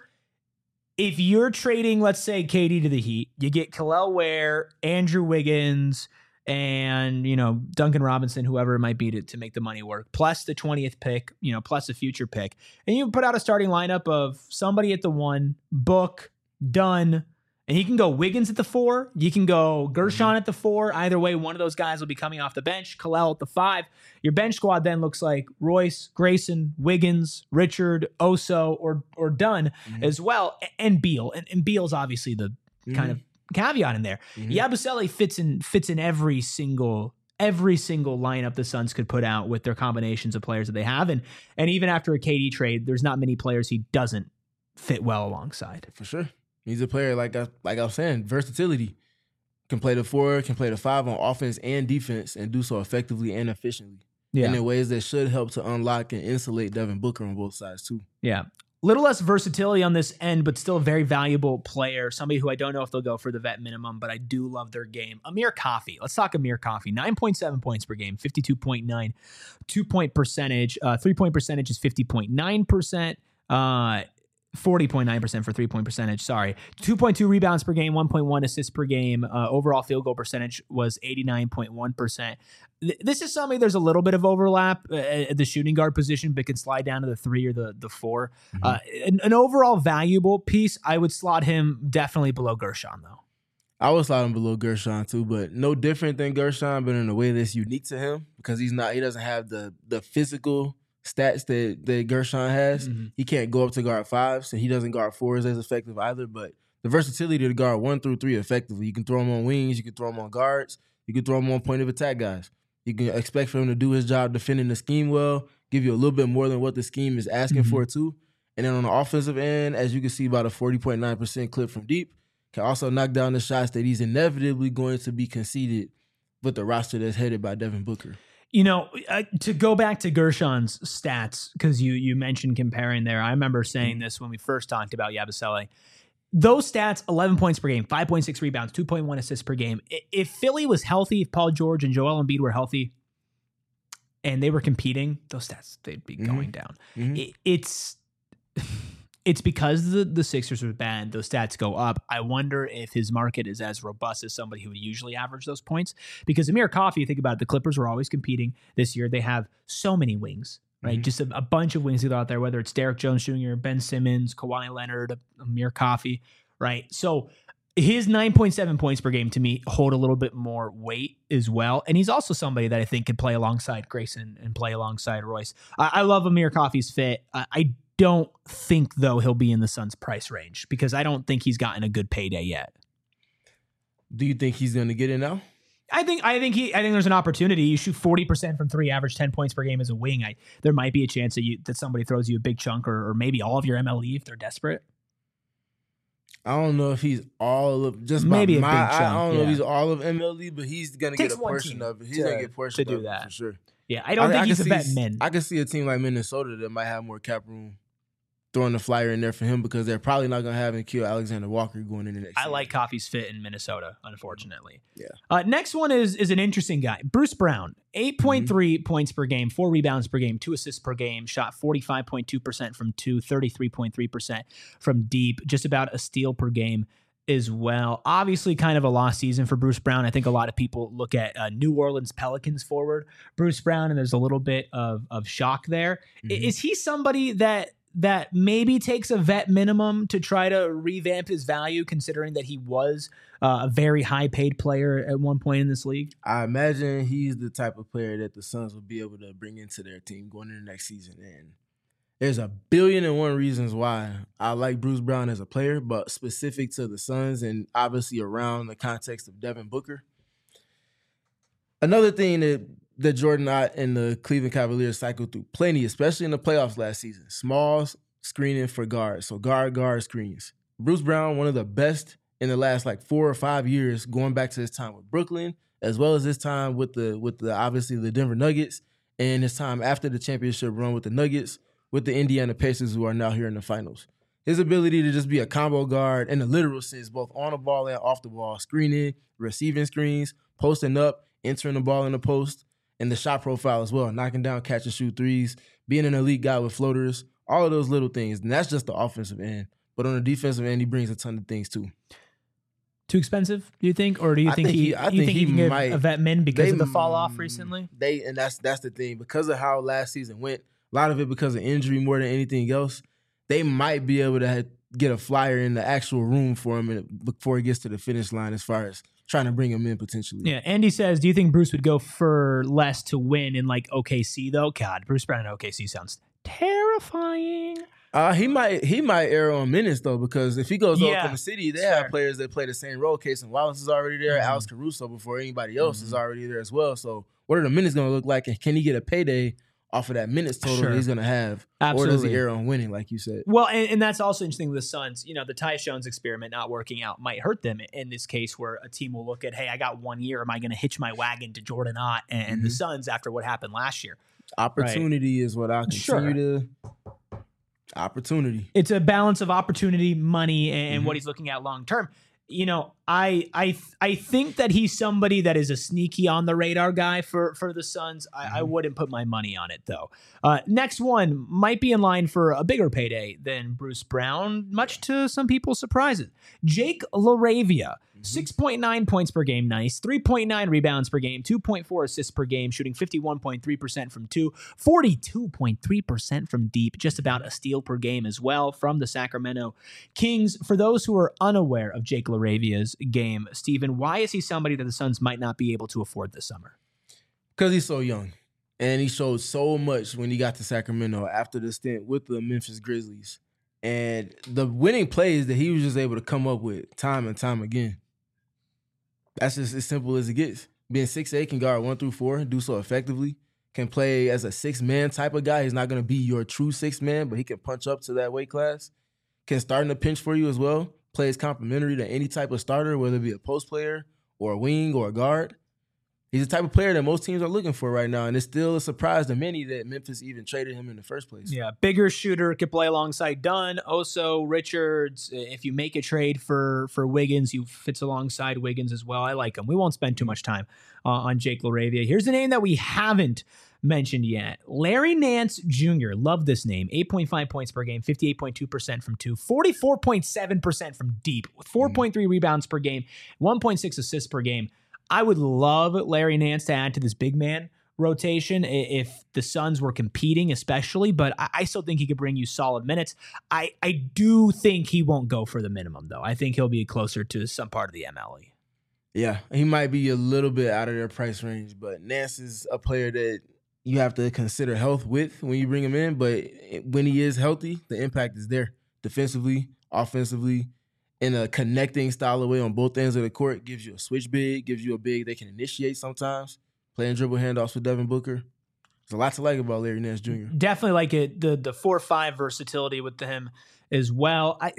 A: if you're trading, let's say K D to the Heat, you get Kel'el Ware, Andrew Wiggins, and, you know, Duncan Robinson, whoever it might be to, to make the money work, plus the twentieth pick, you know, plus a future pick. And you put out a starting lineup of somebody at the one, Book, Dunn, and you can go Wiggins at the four. You can go Guerschon mm-hmm. at the four. Either way, one of those guys will be coming off the bench. Kel'el at the five. Your bench squad then looks like Royce, Grayson, Wiggins, Richard, Oso, or or Dunn mm-hmm. as well, and Beal. And, and Beal's obviously the mm-hmm. kind of caveat in there. Mm-hmm. Yabusele fits in fits in every single every single lineup the Suns could put out with their combinations of players that they have, and and even after a K D trade, there's not many players he doesn't fit well alongside.
B: For sure, he's a player like I like I was saying, versatility. Can play the four, can play the five on offense and defense, and do so effectively and efficiently. Yeah, and in ways that should help to unlock and insulate Devin Booker on both sides too.
A: Yeah. Little less versatility on this end, but still a very valuable player. Somebody who I don't know if they'll go for the vet minimum, but I do love their game. Amir Coffey. Let's talk Amir Coffey. nine point seven points per game, fifty-two point nine. Two-point percentage. Uh, three-point percentage is fifty point nine percent. Uh, forty point nine percent for three-point percentage, sorry. two point two rebounds per game, one point one assists per game. Uh, overall field goal percentage was eighty-nine point one percent. Th- this is something there's a little bit of overlap uh, at the shooting guard position, but can slide down to the three or the, the four. Mm-hmm. Uh, an, an overall valuable piece, I would slot him definitely below Guerschon, though.
B: I would slot him below Guerschon, too, but no different than Guerschon, but in a way that's unique to him because he's not. He doesn't have the the physical stats that, that Guerschon has. Mm-hmm. He can't go up to guard five, so he doesn't guard fours as effective either, but the versatility to guard one through three effectively. You can throw him on wings. You can throw him on guards. You can throw him on point of attack guys. You can expect for him to do his job defending the scheme well, give you a little bit more than what the scheme is asking mm-hmm. for too. And then on the offensive end, as you can see, about a forty point nine percent clip from deep, can also knock down the shots that he's inevitably going to be conceded with the roster that's headed by Devin Booker.
A: You know, uh, to go back to Gershon's stats, because you you mentioned comparing there, I remember saying mm-hmm. this when we first talked about Yabusele. Those stats, eleven points per game, five point six rebounds, two point one assists per game. If Philly was healthy, if Paul George and Joel Embiid were healthy and they were competing, those stats, they'd be mm-hmm. going down. Mm-hmm. It, it's it's because the, the Sixers are bad, those stats go up. I wonder if his market is as robust as somebody who would usually average those points. Because Amir Coffey, you think about it, the Clippers were always competing this year. They have so many wings. Right, mm-hmm. just a, a bunch of wings out there, whether it's Derek Jones Junior, Ben Simmons, Kawhi Leonard, Amir Coffey, right? So his nine point seven points per game to me hold a little bit more weight as well. And he's also somebody that I think could play alongside Grayson and play alongside Royce. I, I love Amir Coffey's fit. I, I don't think, though, he'll be in the Suns' price range because I don't think he's gotten a good payday yet.
B: Do you think he's going to get it now?
A: I think I think he I think there's an opportunity. You shoot forty percent from three, average ten points per game as a wing. I there might be a chance that you that somebody throws you a big chunk or, or maybe all of your M L E if they're desperate.
B: I don't know if he's all of just
A: maybe a
B: my,
A: big chunk.
B: I don't
A: yeah.
B: know if he's all of M L E, but he's gonna
A: Takes
B: get a portion of it. He's
A: to,
B: gonna get a portion
A: to do
B: of
A: that
B: it for sure.
A: Yeah, I don't I, think
B: I
A: he's a
B: see,
A: vet min.
B: I can see a team like Minnesota that might have more cap room throwing the flyer in there for him because they're probably not going to have Nickeil Alexander-Walker going in the next
A: I
B: season.
A: like Coffey's fit in Minnesota, unfortunately.
B: Yeah.
A: Uh, next one is is an interesting guy. Bruce Brown, eight point three mm-hmm. points per game, four rebounds per game, two assists per game, shot forty-five point two percent from two, thirty-three point three percent from deep, just about a steal per game as well. Obviously kind of a lost season for Bruce Brown. I think a lot of people look at uh, New Orleans Pelicans forward Bruce Brown, and there's a little bit of, of shock there. Mm-hmm. Is he somebody that that maybe takes a vet minimum to try to revamp his value, considering that he was uh, a very high paid player at one point in this league?
B: I imagine he's the type of player that the Suns will be able to bring into their team going into the next season. And there's a billion and one reasons why I like Bruce Brown as a player, but specific to the Suns and obviously around the context of Devin Booker. Another thing that that Jordan Ott and the Cleveland Cavaliers cycled through plenty, especially in the playoffs last season. Small screening for guards, so guard, guard screens. Bruce Brown, one of the best in the last like four or five years, going back to his time with Brooklyn, as well as his time with the with the obviously the Denver Nuggets, and his time after the championship run with the Nuggets, with the Indiana Pacers, who are now here in the finals. His ability to just be a combo guard in the literal sense, both on the ball and off the ball, screening, receiving screens, posting up, entering the ball in the post, and the shot profile as well, knocking down catch and shoot threes, being an elite guy with floaters, all of those little things. And that's just the offensive end. But on the defensive end, he brings a ton of things too.
A: Too expensive, do you think? Or do you think, think he, he I you think, think he, he can might, get a vet min because they, of the fall off recently?
B: They And that's that's the thing. Because of how last season went, a lot of it because of injury more than anything else, they might be able to get a flyer in the actual room for him before he gets to the finish line as far as trying to bring him in potentially.
A: Yeah, Andy says, do you think Bruce would go for less to win in like O K C though? God, Bruce Brown in O K C sounds terrifying.
B: Uh, he might he might err on minutes though, because if he goes to
A: yeah,
B: Oklahoma City, they
A: sure.
B: have players that play the same role. Casey Wallace is already there, mm-hmm. Alex Caruso before anybody else mm-hmm. is already there as well. So what are the minutes going to look like, and can he get a payday off of that minutes total
A: sure.
B: that he's going to have?
A: Absolutely.
B: Or does he err on winning, like you said?
A: Well, and, and that's also interesting with the Suns. You know, the Tyus Jones experiment not working out might hurt them in this case, where a team will look at, hey, I got one year. Am I going to hitch my wagon to Jordan Ott and, and mm-hmm. the Suns after what happened last year?
B: Opportunity right. is what I continue
A: sure.
B: to... Opportunity.
A: It's a balance of opportunity, money, and
B: mm-hmm.
A: what he's looking at long term. You know, I I I think that he's somebody that is a sneaky on the radar guy for for the Suns. I, mm-hmm. I wouldn't put my money on it though. Uh, next one might be in line for a bigger payday than Bruce Brown, much to some people's surprises. Jake LaRavia. six point nine points per game, nice. three point nine rebounds per game, two point four assists per game, shooting fifty-one point three percent from two, forty-two point three percent from deep, just about a steal per game as well from the Sacramento Kings. For those who are unaware of Jake LaRavia's game, Steven, why is he somebody that the Suns might not be able to afford this summer?
B: Because he's so young. And he showed so much when he got to Sacramento after the stint with the Memphis Grizzlies. And the winning plays that he was just able to come up with time and time again. That's just as simple as it gets. Being six eight, can guard one through four, do so effectively. Can play as a six-man type of guy. He's not going to be your true six-man, but he can punch up to that weight class. Can start in a pinch for you as well. Plays complementary to any type of starter, whether it be a post player or a wing or a guard. He's the type of player that most teams are looking for right now, and it's still a surprise to many that Memphis even traded him in the first place.
A: Yeah, bigger shooter, could play alongside Dunn, Oso, Richards. If you make a trade for for Wiggins, he fits alongside Wiggins as well. I like him. We won't spend too much time uh, on Jake LaRavia. Here's a name that we haven't mentioned yet. Larry Nance Junior Love this name. eight point five points per game, fifty-eight point two percent from two, forty-four point seven percent from deep, with four point three mm. rebounds per game, one point six assists per game. I would love Larry Nance to add to this big man rotation if the Suns were competing, especially, but I still think he could bring you solid minutes. I, I do think he won't go for the minimum, though. I think he'll be closer to some part of the M L E.
B: Yeah, he might be a little bit out of their price range, but Nance is a player that you have to consider health with when you bring him in, but when he is healthy, the impact is there. Defensively, offensively, in a connecting style of way on both ends of the court, gives you a switch big, gives you a big they can initiate sometimes, playing dribble handoffs with Devin Booker. There's a lot to like about Larry Nance Junior
A: Definitely like it, the the four five versatility with him as well. I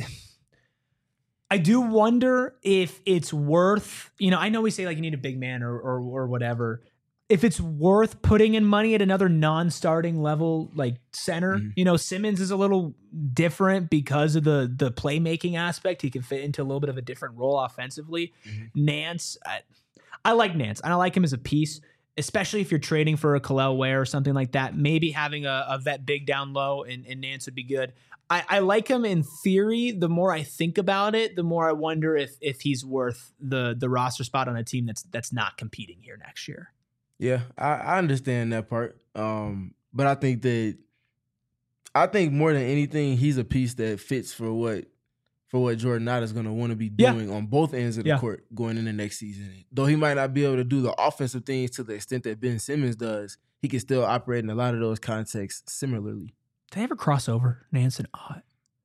A: I do wonder if it's worth, you know, I know we say like you need a big man or or, or whatever, if it's worth putting in money at another non-starting level like center. Mm-hmm. You know, Simmons is a little different because of the the playmaking aspect. He can fit into a little bit of a different role offensively. Mm-hmm. Nance, I, I like Nance. And I like him as a piece, especially if you're trading for a Kel'el Ware or something like that. Maybe having a, a vet big down low and, and Nance would be good. I, I like him in theory. The more I think about it, the more I wonder if if he's worth the the roster spot on a team that's that's not competing here next year.
B: Yeah, I, I understand that part. Um, but I think that I think more than anything, he's a piece that fits for what for what Jordan Knott is going to want to be doing yeah. on both ends of the yeah. court going into next season. Though he might not be able to do the offensive things to the extent that Ben Simmons does, he can still operate in a lot of those contexts similarly.
A: Did they ever cross over, Nance and Ott?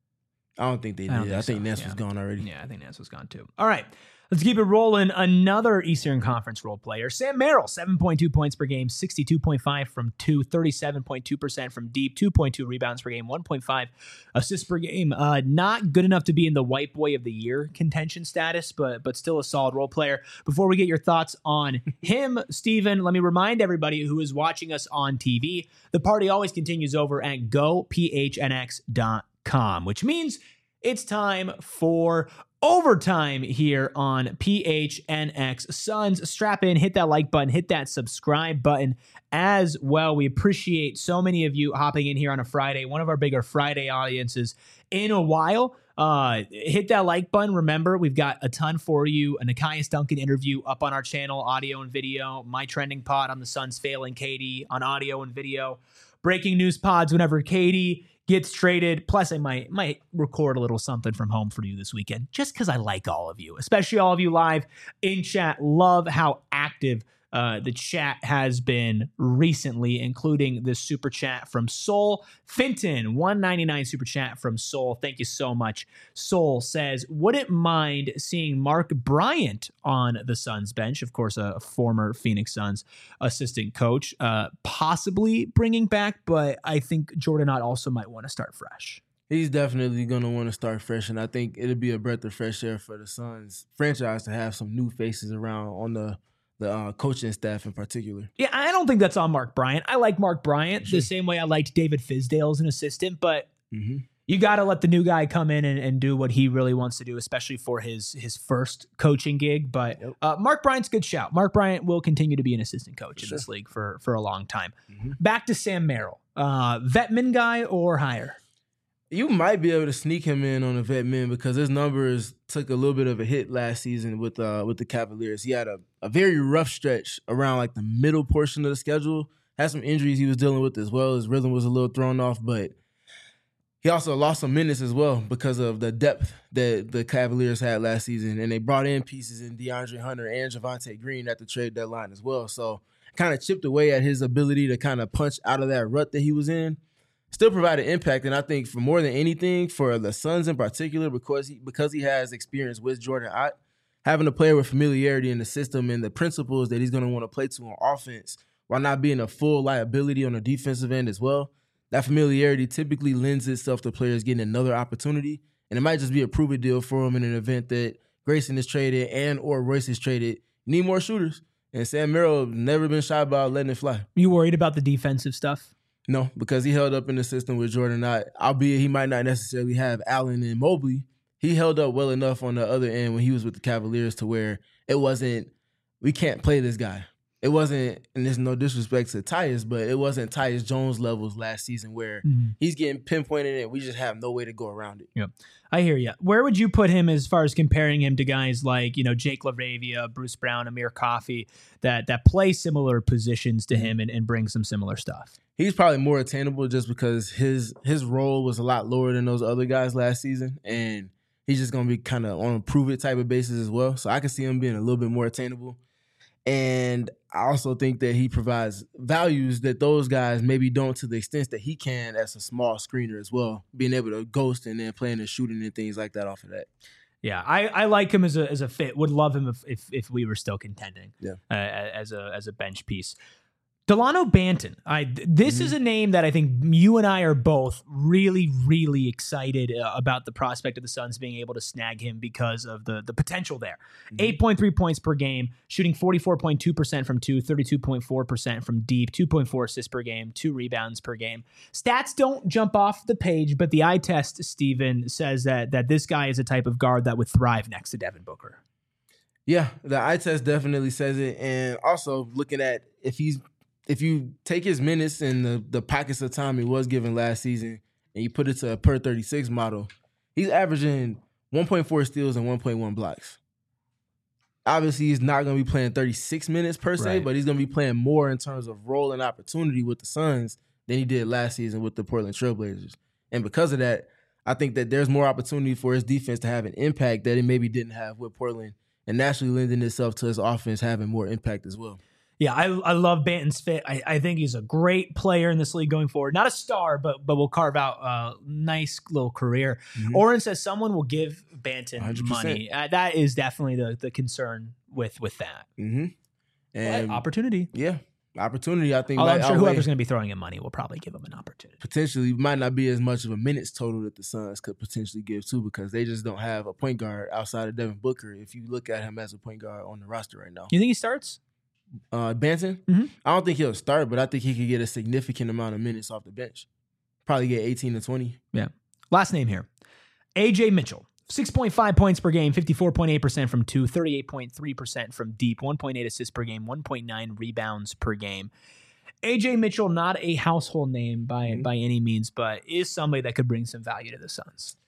B: I don't think they did. I, think, I think so. Nance yeah. was gone already.
A: Yeah, I think Nance was gone too. All right. Let's keep it rolling. Another Eastern Conference role player, Sam Merrill, seven point two points per game, sixty-two point five from two, thirty-seven point two percent from deep, two point two rebounds per game, one point five assists per game. Uh, not good enough to be in the White Boy of the Year contention status, but but still a solid role player. Before we get your thoughts on him, Steven, let me remind everybody who is watching us on T V, the party always continues over at go p h n x dot com, which means it's time for overtime here on P H N X Suns. Strap in, hit that like button, hit that subscribe button as well. We appreciate so many of you hopping in here on a Friday, one of our bigger Friday audiences in a while. Uh, hit that like button. Remember, we've got a ton for you. A Nekias Duncan interview up on our channel, audio and video. My trending pod on the Suns failing K D on audio and video. Breaking news pods whenever K D gets traded. Plus, I might might record a little something from home for you this weekend, just because I like all of you, especially all of you live in chat. Love how active uh, the chat has been recently, including this super chat from Soul Finton, one ninety-nine super chat from Soul. Thank you so much. Soul says, wouldn't mind seeing Mark Bryant on the Suns bench. Of course, a former Phoenix Suns assistant coach, uh, possibly bringing back, but I think Jordan Knott also might want to start fresh.
B: He's definitely going to want to start fresh, and I think it'll be a breath of fresh air for the Suns franchise to have some new faces around on the the uh, coaching staff in particular.
A: Yeah, I don't think that's on Mark Bryant. I like Mark Bryant sure. the same way I liked David Fizdale as an assistant, but mm-hmm. you got to let the new guy come in and, and do what he really wants to do, especially for his his first coaching gig. But yep. uh, Mark Bryant's a good shout. Mark Bryant will continue to be an assistant coach sure. in this league for, for a long time. Mm-hmm. Back to Sam Merrill. Uh, Vetman guy or higher?
B: You might be able to sneak him in on a vet min because his numbers took a little bit of a hit last season with uh with the Cavaliers. He had a, a very rough stretch around like the middle portion of the schedule. Had some injuries he was dealing with as well. His rhythm was a little thrown off, but he also lost some minutes as well because of the depth that the Cavaliers had last season. And they brought in pieces in DeAndre Hunter and Javonte Green at the trade deadline as well. So kind of chipped away at his ability to kind of punch out of that rut that he was in. still provided impact. And I think for more than anything, for the Suns in particular, because he because he has experience with Jordan Ott, having a player with familiarity in the system and the principles that he's going to want to play to on offense while not being a full liability on the defensive end as well, that familiarity typically lends itself to players getting another opportunity. And it might just be a prove-it deal for him in an event that Grayson is traded and or Royce is traded. You need more shooters. And Sam Merrill never been shy about letting it fly.
A: You worried about the defensive stuff?
B: No, because he held up in the system with Jordan Ott. Albeit he might not necessarily have Allen and Mobley, he held up well enough on the other end when he was with the Cavaliers to where it wasn't, we can't play this guy. It wasn't, and there's no disrespect to Tyus, but it wasn't Tyus Jones levels last season where mm-hmm. he's getting pinpointed and we just have no way to go around it.
A: Yep. I hear you. Where would you put him as far as comparing him to guys like, you know, Jake LaRavia, Bruce Brown, Amir Coffey, that that play similar positions to him and, and bring some similar stuff?
B: He's probably more attainable just because his his role was a lot lower than those other guys last season, and he's just going to be kind of on a prove-it type of basis as well. So I can see him being a little bit more attainable. And I also think that he provides values that those guys maybe don't to the extent that he can as a small screener as well, being able to ghost and then playing and shooting and things like that off of that.
A: Yeah, I, I like him as a as a fit. Would love him if if, if we were still contending.
B: Yeah,
A: uh, as a as a bench piece. Delano Banton. I this mm-hmm. is a name that I think you and I are both really, really excited uh, about the prospect of the Suns being able to snag him because of the the potential there. Mm-hmm. eight point three points per game, shooting forty-four point two percent from two, thirty-two point four percent from deep, two point four assists per game, two rebounds per game. Stats don't jump off the page, but the eye test, Steven, says that that this guy is a type of guard that would thrive next to Devin Booker.
B: Yeah, the eye test definitely says it. And also looking at if he's If you take his minutes and the, the pockets of time he was given last season and you put it to a per thirty-six model, he's averaging one point four steals and one point one blocks. Obviously, he's not going to be playing thirty-six minutes per se, right. but he's going to be playing more in terms of role and opportunity with the Suns than he did last season with the Portland Trailblazers. And because of that, I think that there's more opportunity for his defense to have an impact that it maybe didn't have with Portland, and naturally lending itself to his offense having more impact as well.
A: Yeah, I I love Banton's fit. I, I think he's a great player in this league going forward. Not a star, but but will carve out a nice little career. Mm-hmm. Oren says someone will give Banton one hundred percent money. Uh, that is definitely the the concern with with that.
B: Mm-hmm. And
A: but opportunity.
B: Yeah, opportunity. I think.
A: Although
B: like,
A: I'm sure whoever's going to be throwing him money will probably give him an opportunity.
B: Potentially, might not be as much of a minutes total that the Suns could potentially give too, because they just don't have a point guard outside of Devin Booker. If you look at him as a point guard on the roster right now,
A: you think he starts?
B: Uh, Banton,
A: mm-hmm.
B: I don't think he'll start, but I think he could get a significant amount of minutes off the bench. Probably get eighteen to twenty.
A: Yeah. Last name here. A J Mitchell. six point five points per game, fifty-four point eight percent from two, thirty-eight point three percent from deep, one point eight assists per game, one point nine rebounds per game. A J Mitchell, not a household name by, mm-hmm. by any means, but is somebody that could bring some value to the Suns.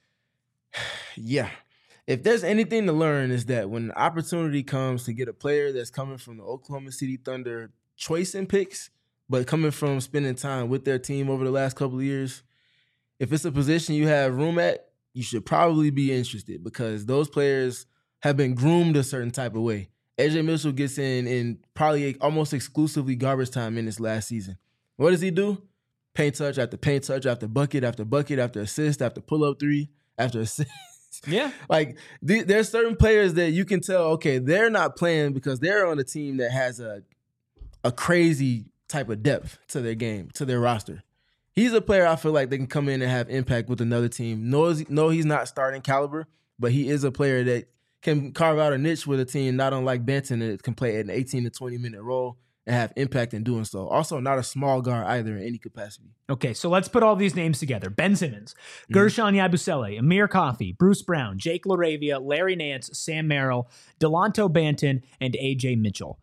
B: Yeah. If there's anything to learn, is that when the opportunity comes to get a player that's coming from the Oklahoma City Thunder choice and picks, but coming from spending time with their team over the last couple of years, if it's a position you have room at, you should probably be interested because those players have been groomed a certain type of way. A J Mitchell gets in in probably almost exclusively garbage time minutes last season. What does he do? Paint touch after paint touch after bucket after bucket after assist after pull-up three after assist.
A: Yeah.
B: Like, th- there's certain players that you can tell, okay, they're not playing because they're on a team that has a a crazy type of depth to their game, to their roster. He's a player I feel like they can come in and have impact with another team. No, no, he's not starting caliber, but he is a player that can carve out a niche with a team, not unlike Banton, that can play an eighteen to twenty minute role and have impact in doing so. Also, not a small guard either in any capacity.
A: Okay, so let's put all these names together. Ben Simmons, mm-hmm. Gershon Yabusele, Amir Coffey, Bruce Brown, Jake LaRavia, Larry Nance, Sam Merrill, Delonto Banton, and A J Mitchell.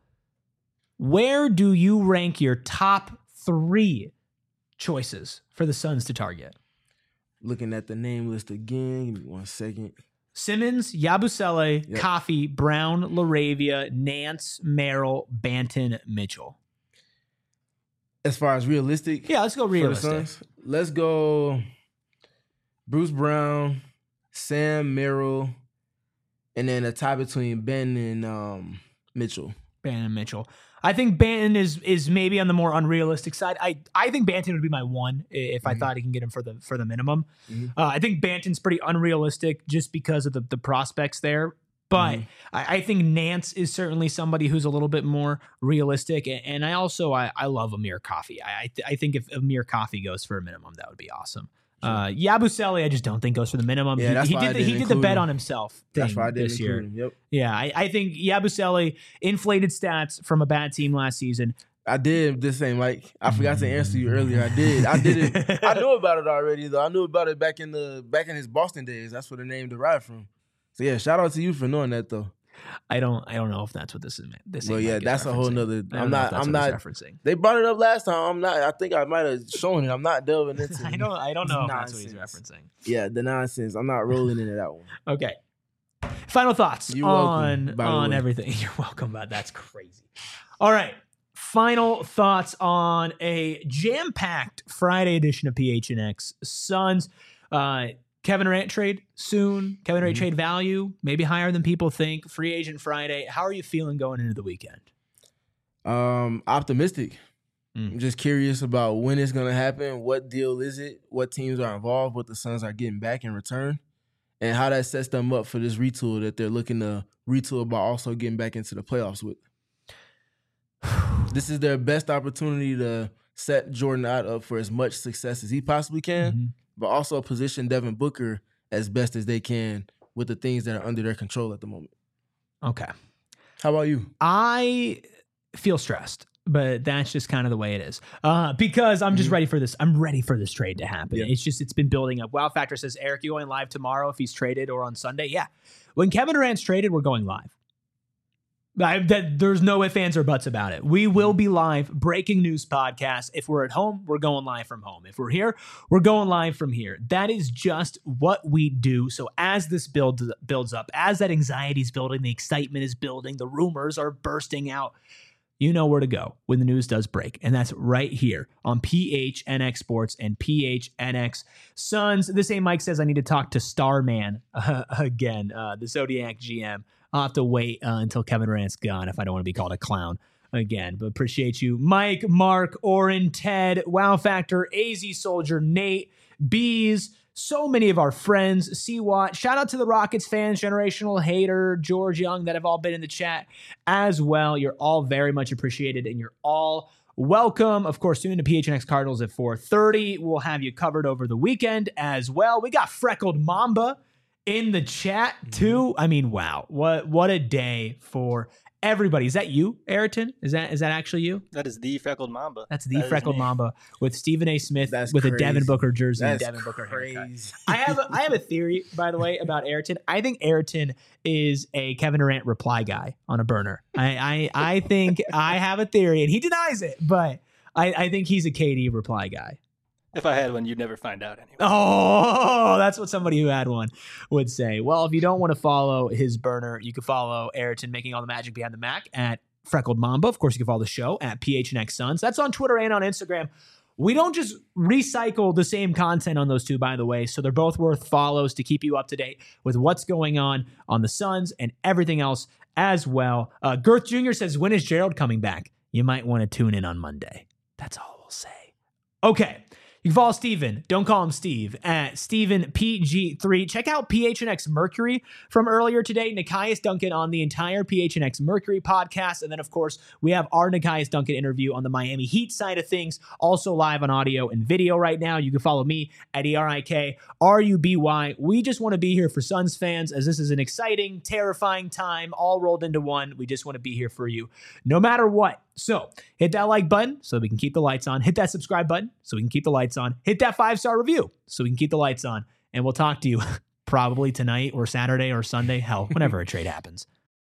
A: Where do you rank your top three choices for the Suns to target?
B: Looking at the name list again, give me one second.
A: Simmons, Yabusele,
B: yep.
A: Coffey, Brown, LaRavia, Nance, Merrill, Banton, Mitchell.
B: As far as realistic?
A: Yeah, let's go realistic.
B: Let's go Bruce Brown, Sam Merrill, and then a tie between Ben and um, Mitchell.
A: Ben and Mitchell. I think Banton is is maybe on the more unrealistic side. I, I think Banton would be my one if mm-hmm. I thought he can get him for the for the minimum. Mm-hmm. Uh, I think Banton's pretty unrealistic just because of the, the prospects there. But mm-hmm. I, I think Nance is certainly somebody who's a little bit more realistic. And, and I also I, I love Amir Coffey. I I, th- I think if Amir Coffey goes for a minimum, that would be awesome. Uh, Yabusele, I just don't think goes for the minimum.
B: Yeah, that's
A: he, he
B: why
A: did
B: I
A: the, he did the bet
B: him.
A: on himself.
B: That's why I did
A: this year.
B: Him. Yep.
A: Yeah, I, I think Yabusele inflated stats from a bad team last season.
B: I did the same. Like I forgot to answer you earlier. I did. I did it. I knew about it already though. I knew about it back in the back in his Boston days. That's where the name derived from. So yeah, shout out to you for knowing that though.
A: I don't. I don't know if that's what this is. This.
B: Well, yeah, that's a whole nother. I'm not. I'm not
A: referencing.
B: They brought it up last time. I'm not. I think I might have shown it. I'm not delving into.
A: I don't. I don't know if that's what he's referencing.
B: Yeah, the nonsense. I'm not rolling into that one.
A: Okay. Final thoughts
B: You're
A: on
B: welcome,
A: on everything. You're welcome, but that's crazy. All right. Final thoughts on a jam-packed Friday edition of P H N X Suns. Uh, Kevin Durant trade soon. Kevin Durant mm-hmm. trade value maybe higher than people think. Free agent Friday. How are you feeling going into the weekend?
B: Um, optimistic.
A: Mm.
B: I'm just curious about when it's going to happen. What deal is it? What teams are involved? What the Suns are getting back in return? And how that sets them up for this retool that they're looking to retool by also getting back into the playoffs with. This is their best opportunity to set Jordan out up for as much success as he possibly can, mm-hmm. but also position Devin Booker as best as they can with the things that are under their control at the moment.
A: Okay.
B: How about you?
A: I feel stressed, but that's just kind of the way it is. Uh, because I'm just mm-hmm. ready for this. I'm ready for this trade to happen. Yeah. It's just, it's been building up. Wow Factor says, Eric, you going live tomorrow if he's traded or on Sunday? Yeah. When Kevin Durant's traded, we're going live. I, that, there's no ifs, ands, or buts about it. We will be live, breaking news podcast. If we're at home, we're going live from home. If we're here, we're going live from here. That is just what we do. So as this builds builds up, as that anxiety is building, the excitement is building, the rumors are bursting out, you know where to go when the news does break. And that's right here on P H N X Sports and P H N X Suns. This same Mike says I need to talk to Starman uh, again, uh, the Zodiac G M. I'll have to wait uh, until Kevin Durant's gone if I don't want to be called a clown again. But appreciate you. Mike, Mark, Oren, Ted, Wow Factor, A Z Soldier, Nate, Bees, so many of our friends. C-Watt. Shout out to the Rockets fans, Generational Hater, George Young, that have all been in the chat as well. You're all very much appreciated, and you're all welcome. Of course, tune into P H N X Cardinals at four thirty. We'll have you covered over the weekend as well. We got Freckled Mamba in the chat too. I mean, wow, what what a day for everybody. Is that you, Ayrton? Is that is that actually you?
D: That is the Freckled Mamba.
A: That's the
D: that
A: Freckled Mamba with Stephen A. Smith
B: That's
A: with
B: crazy.
A: a Devin Booker jersey
B: That's
A: and Devin Booker
B: crazy.
A: haircut. I have a, I have a theory, by the way, about Ayrton. I think Ayrton is a Kevin Durant reply guy on a burner. I I, I think I have a theory, and he denies it, but I, I think he's a K D reply guy.
D: If I had one, you'd never find out anyway.
A: Oh, that's what somebody who had one would say. Well, if you don't want to follow his burner, you can follow Ayrton making all the magic behind the Mac at Freckled Mamba. Of course, you can follow the show at P H N X Suns. That's on Twitter and on Instagram. We don't just recycle the same content on those two, by the way. So they're both worth follows to keep you up to date with what's going on on the Suns and everything else as well. Uh, Girth Junior says, when is Gerald coming back? You might want to tune in on Monday. That's all we'll say. Okay. You can follow Steven, don't call him Steve, at Steven P G three. Check out P H N X Mercury from earlier today. Nikias Duncan on the entire P H N X Mercury podcast. And then, of course, we have our Nikias Duncan interview on the Miami Heat side of things, also live on audio and video right now. You can follow me at E R I K R U B Y. We just want to be here for Suns fans, as this is an exciting, terrifying time, all rolled into one. We just want to be here for you, no matter what. So hit that like button so we can keep the lights on. Hit that subscribe button so we can keep the lights on. Hit that five-star review so we can keep the lights on. And we'll talk to you probably tonight or Saturday or Sunday. Hell, whenever a trade happens.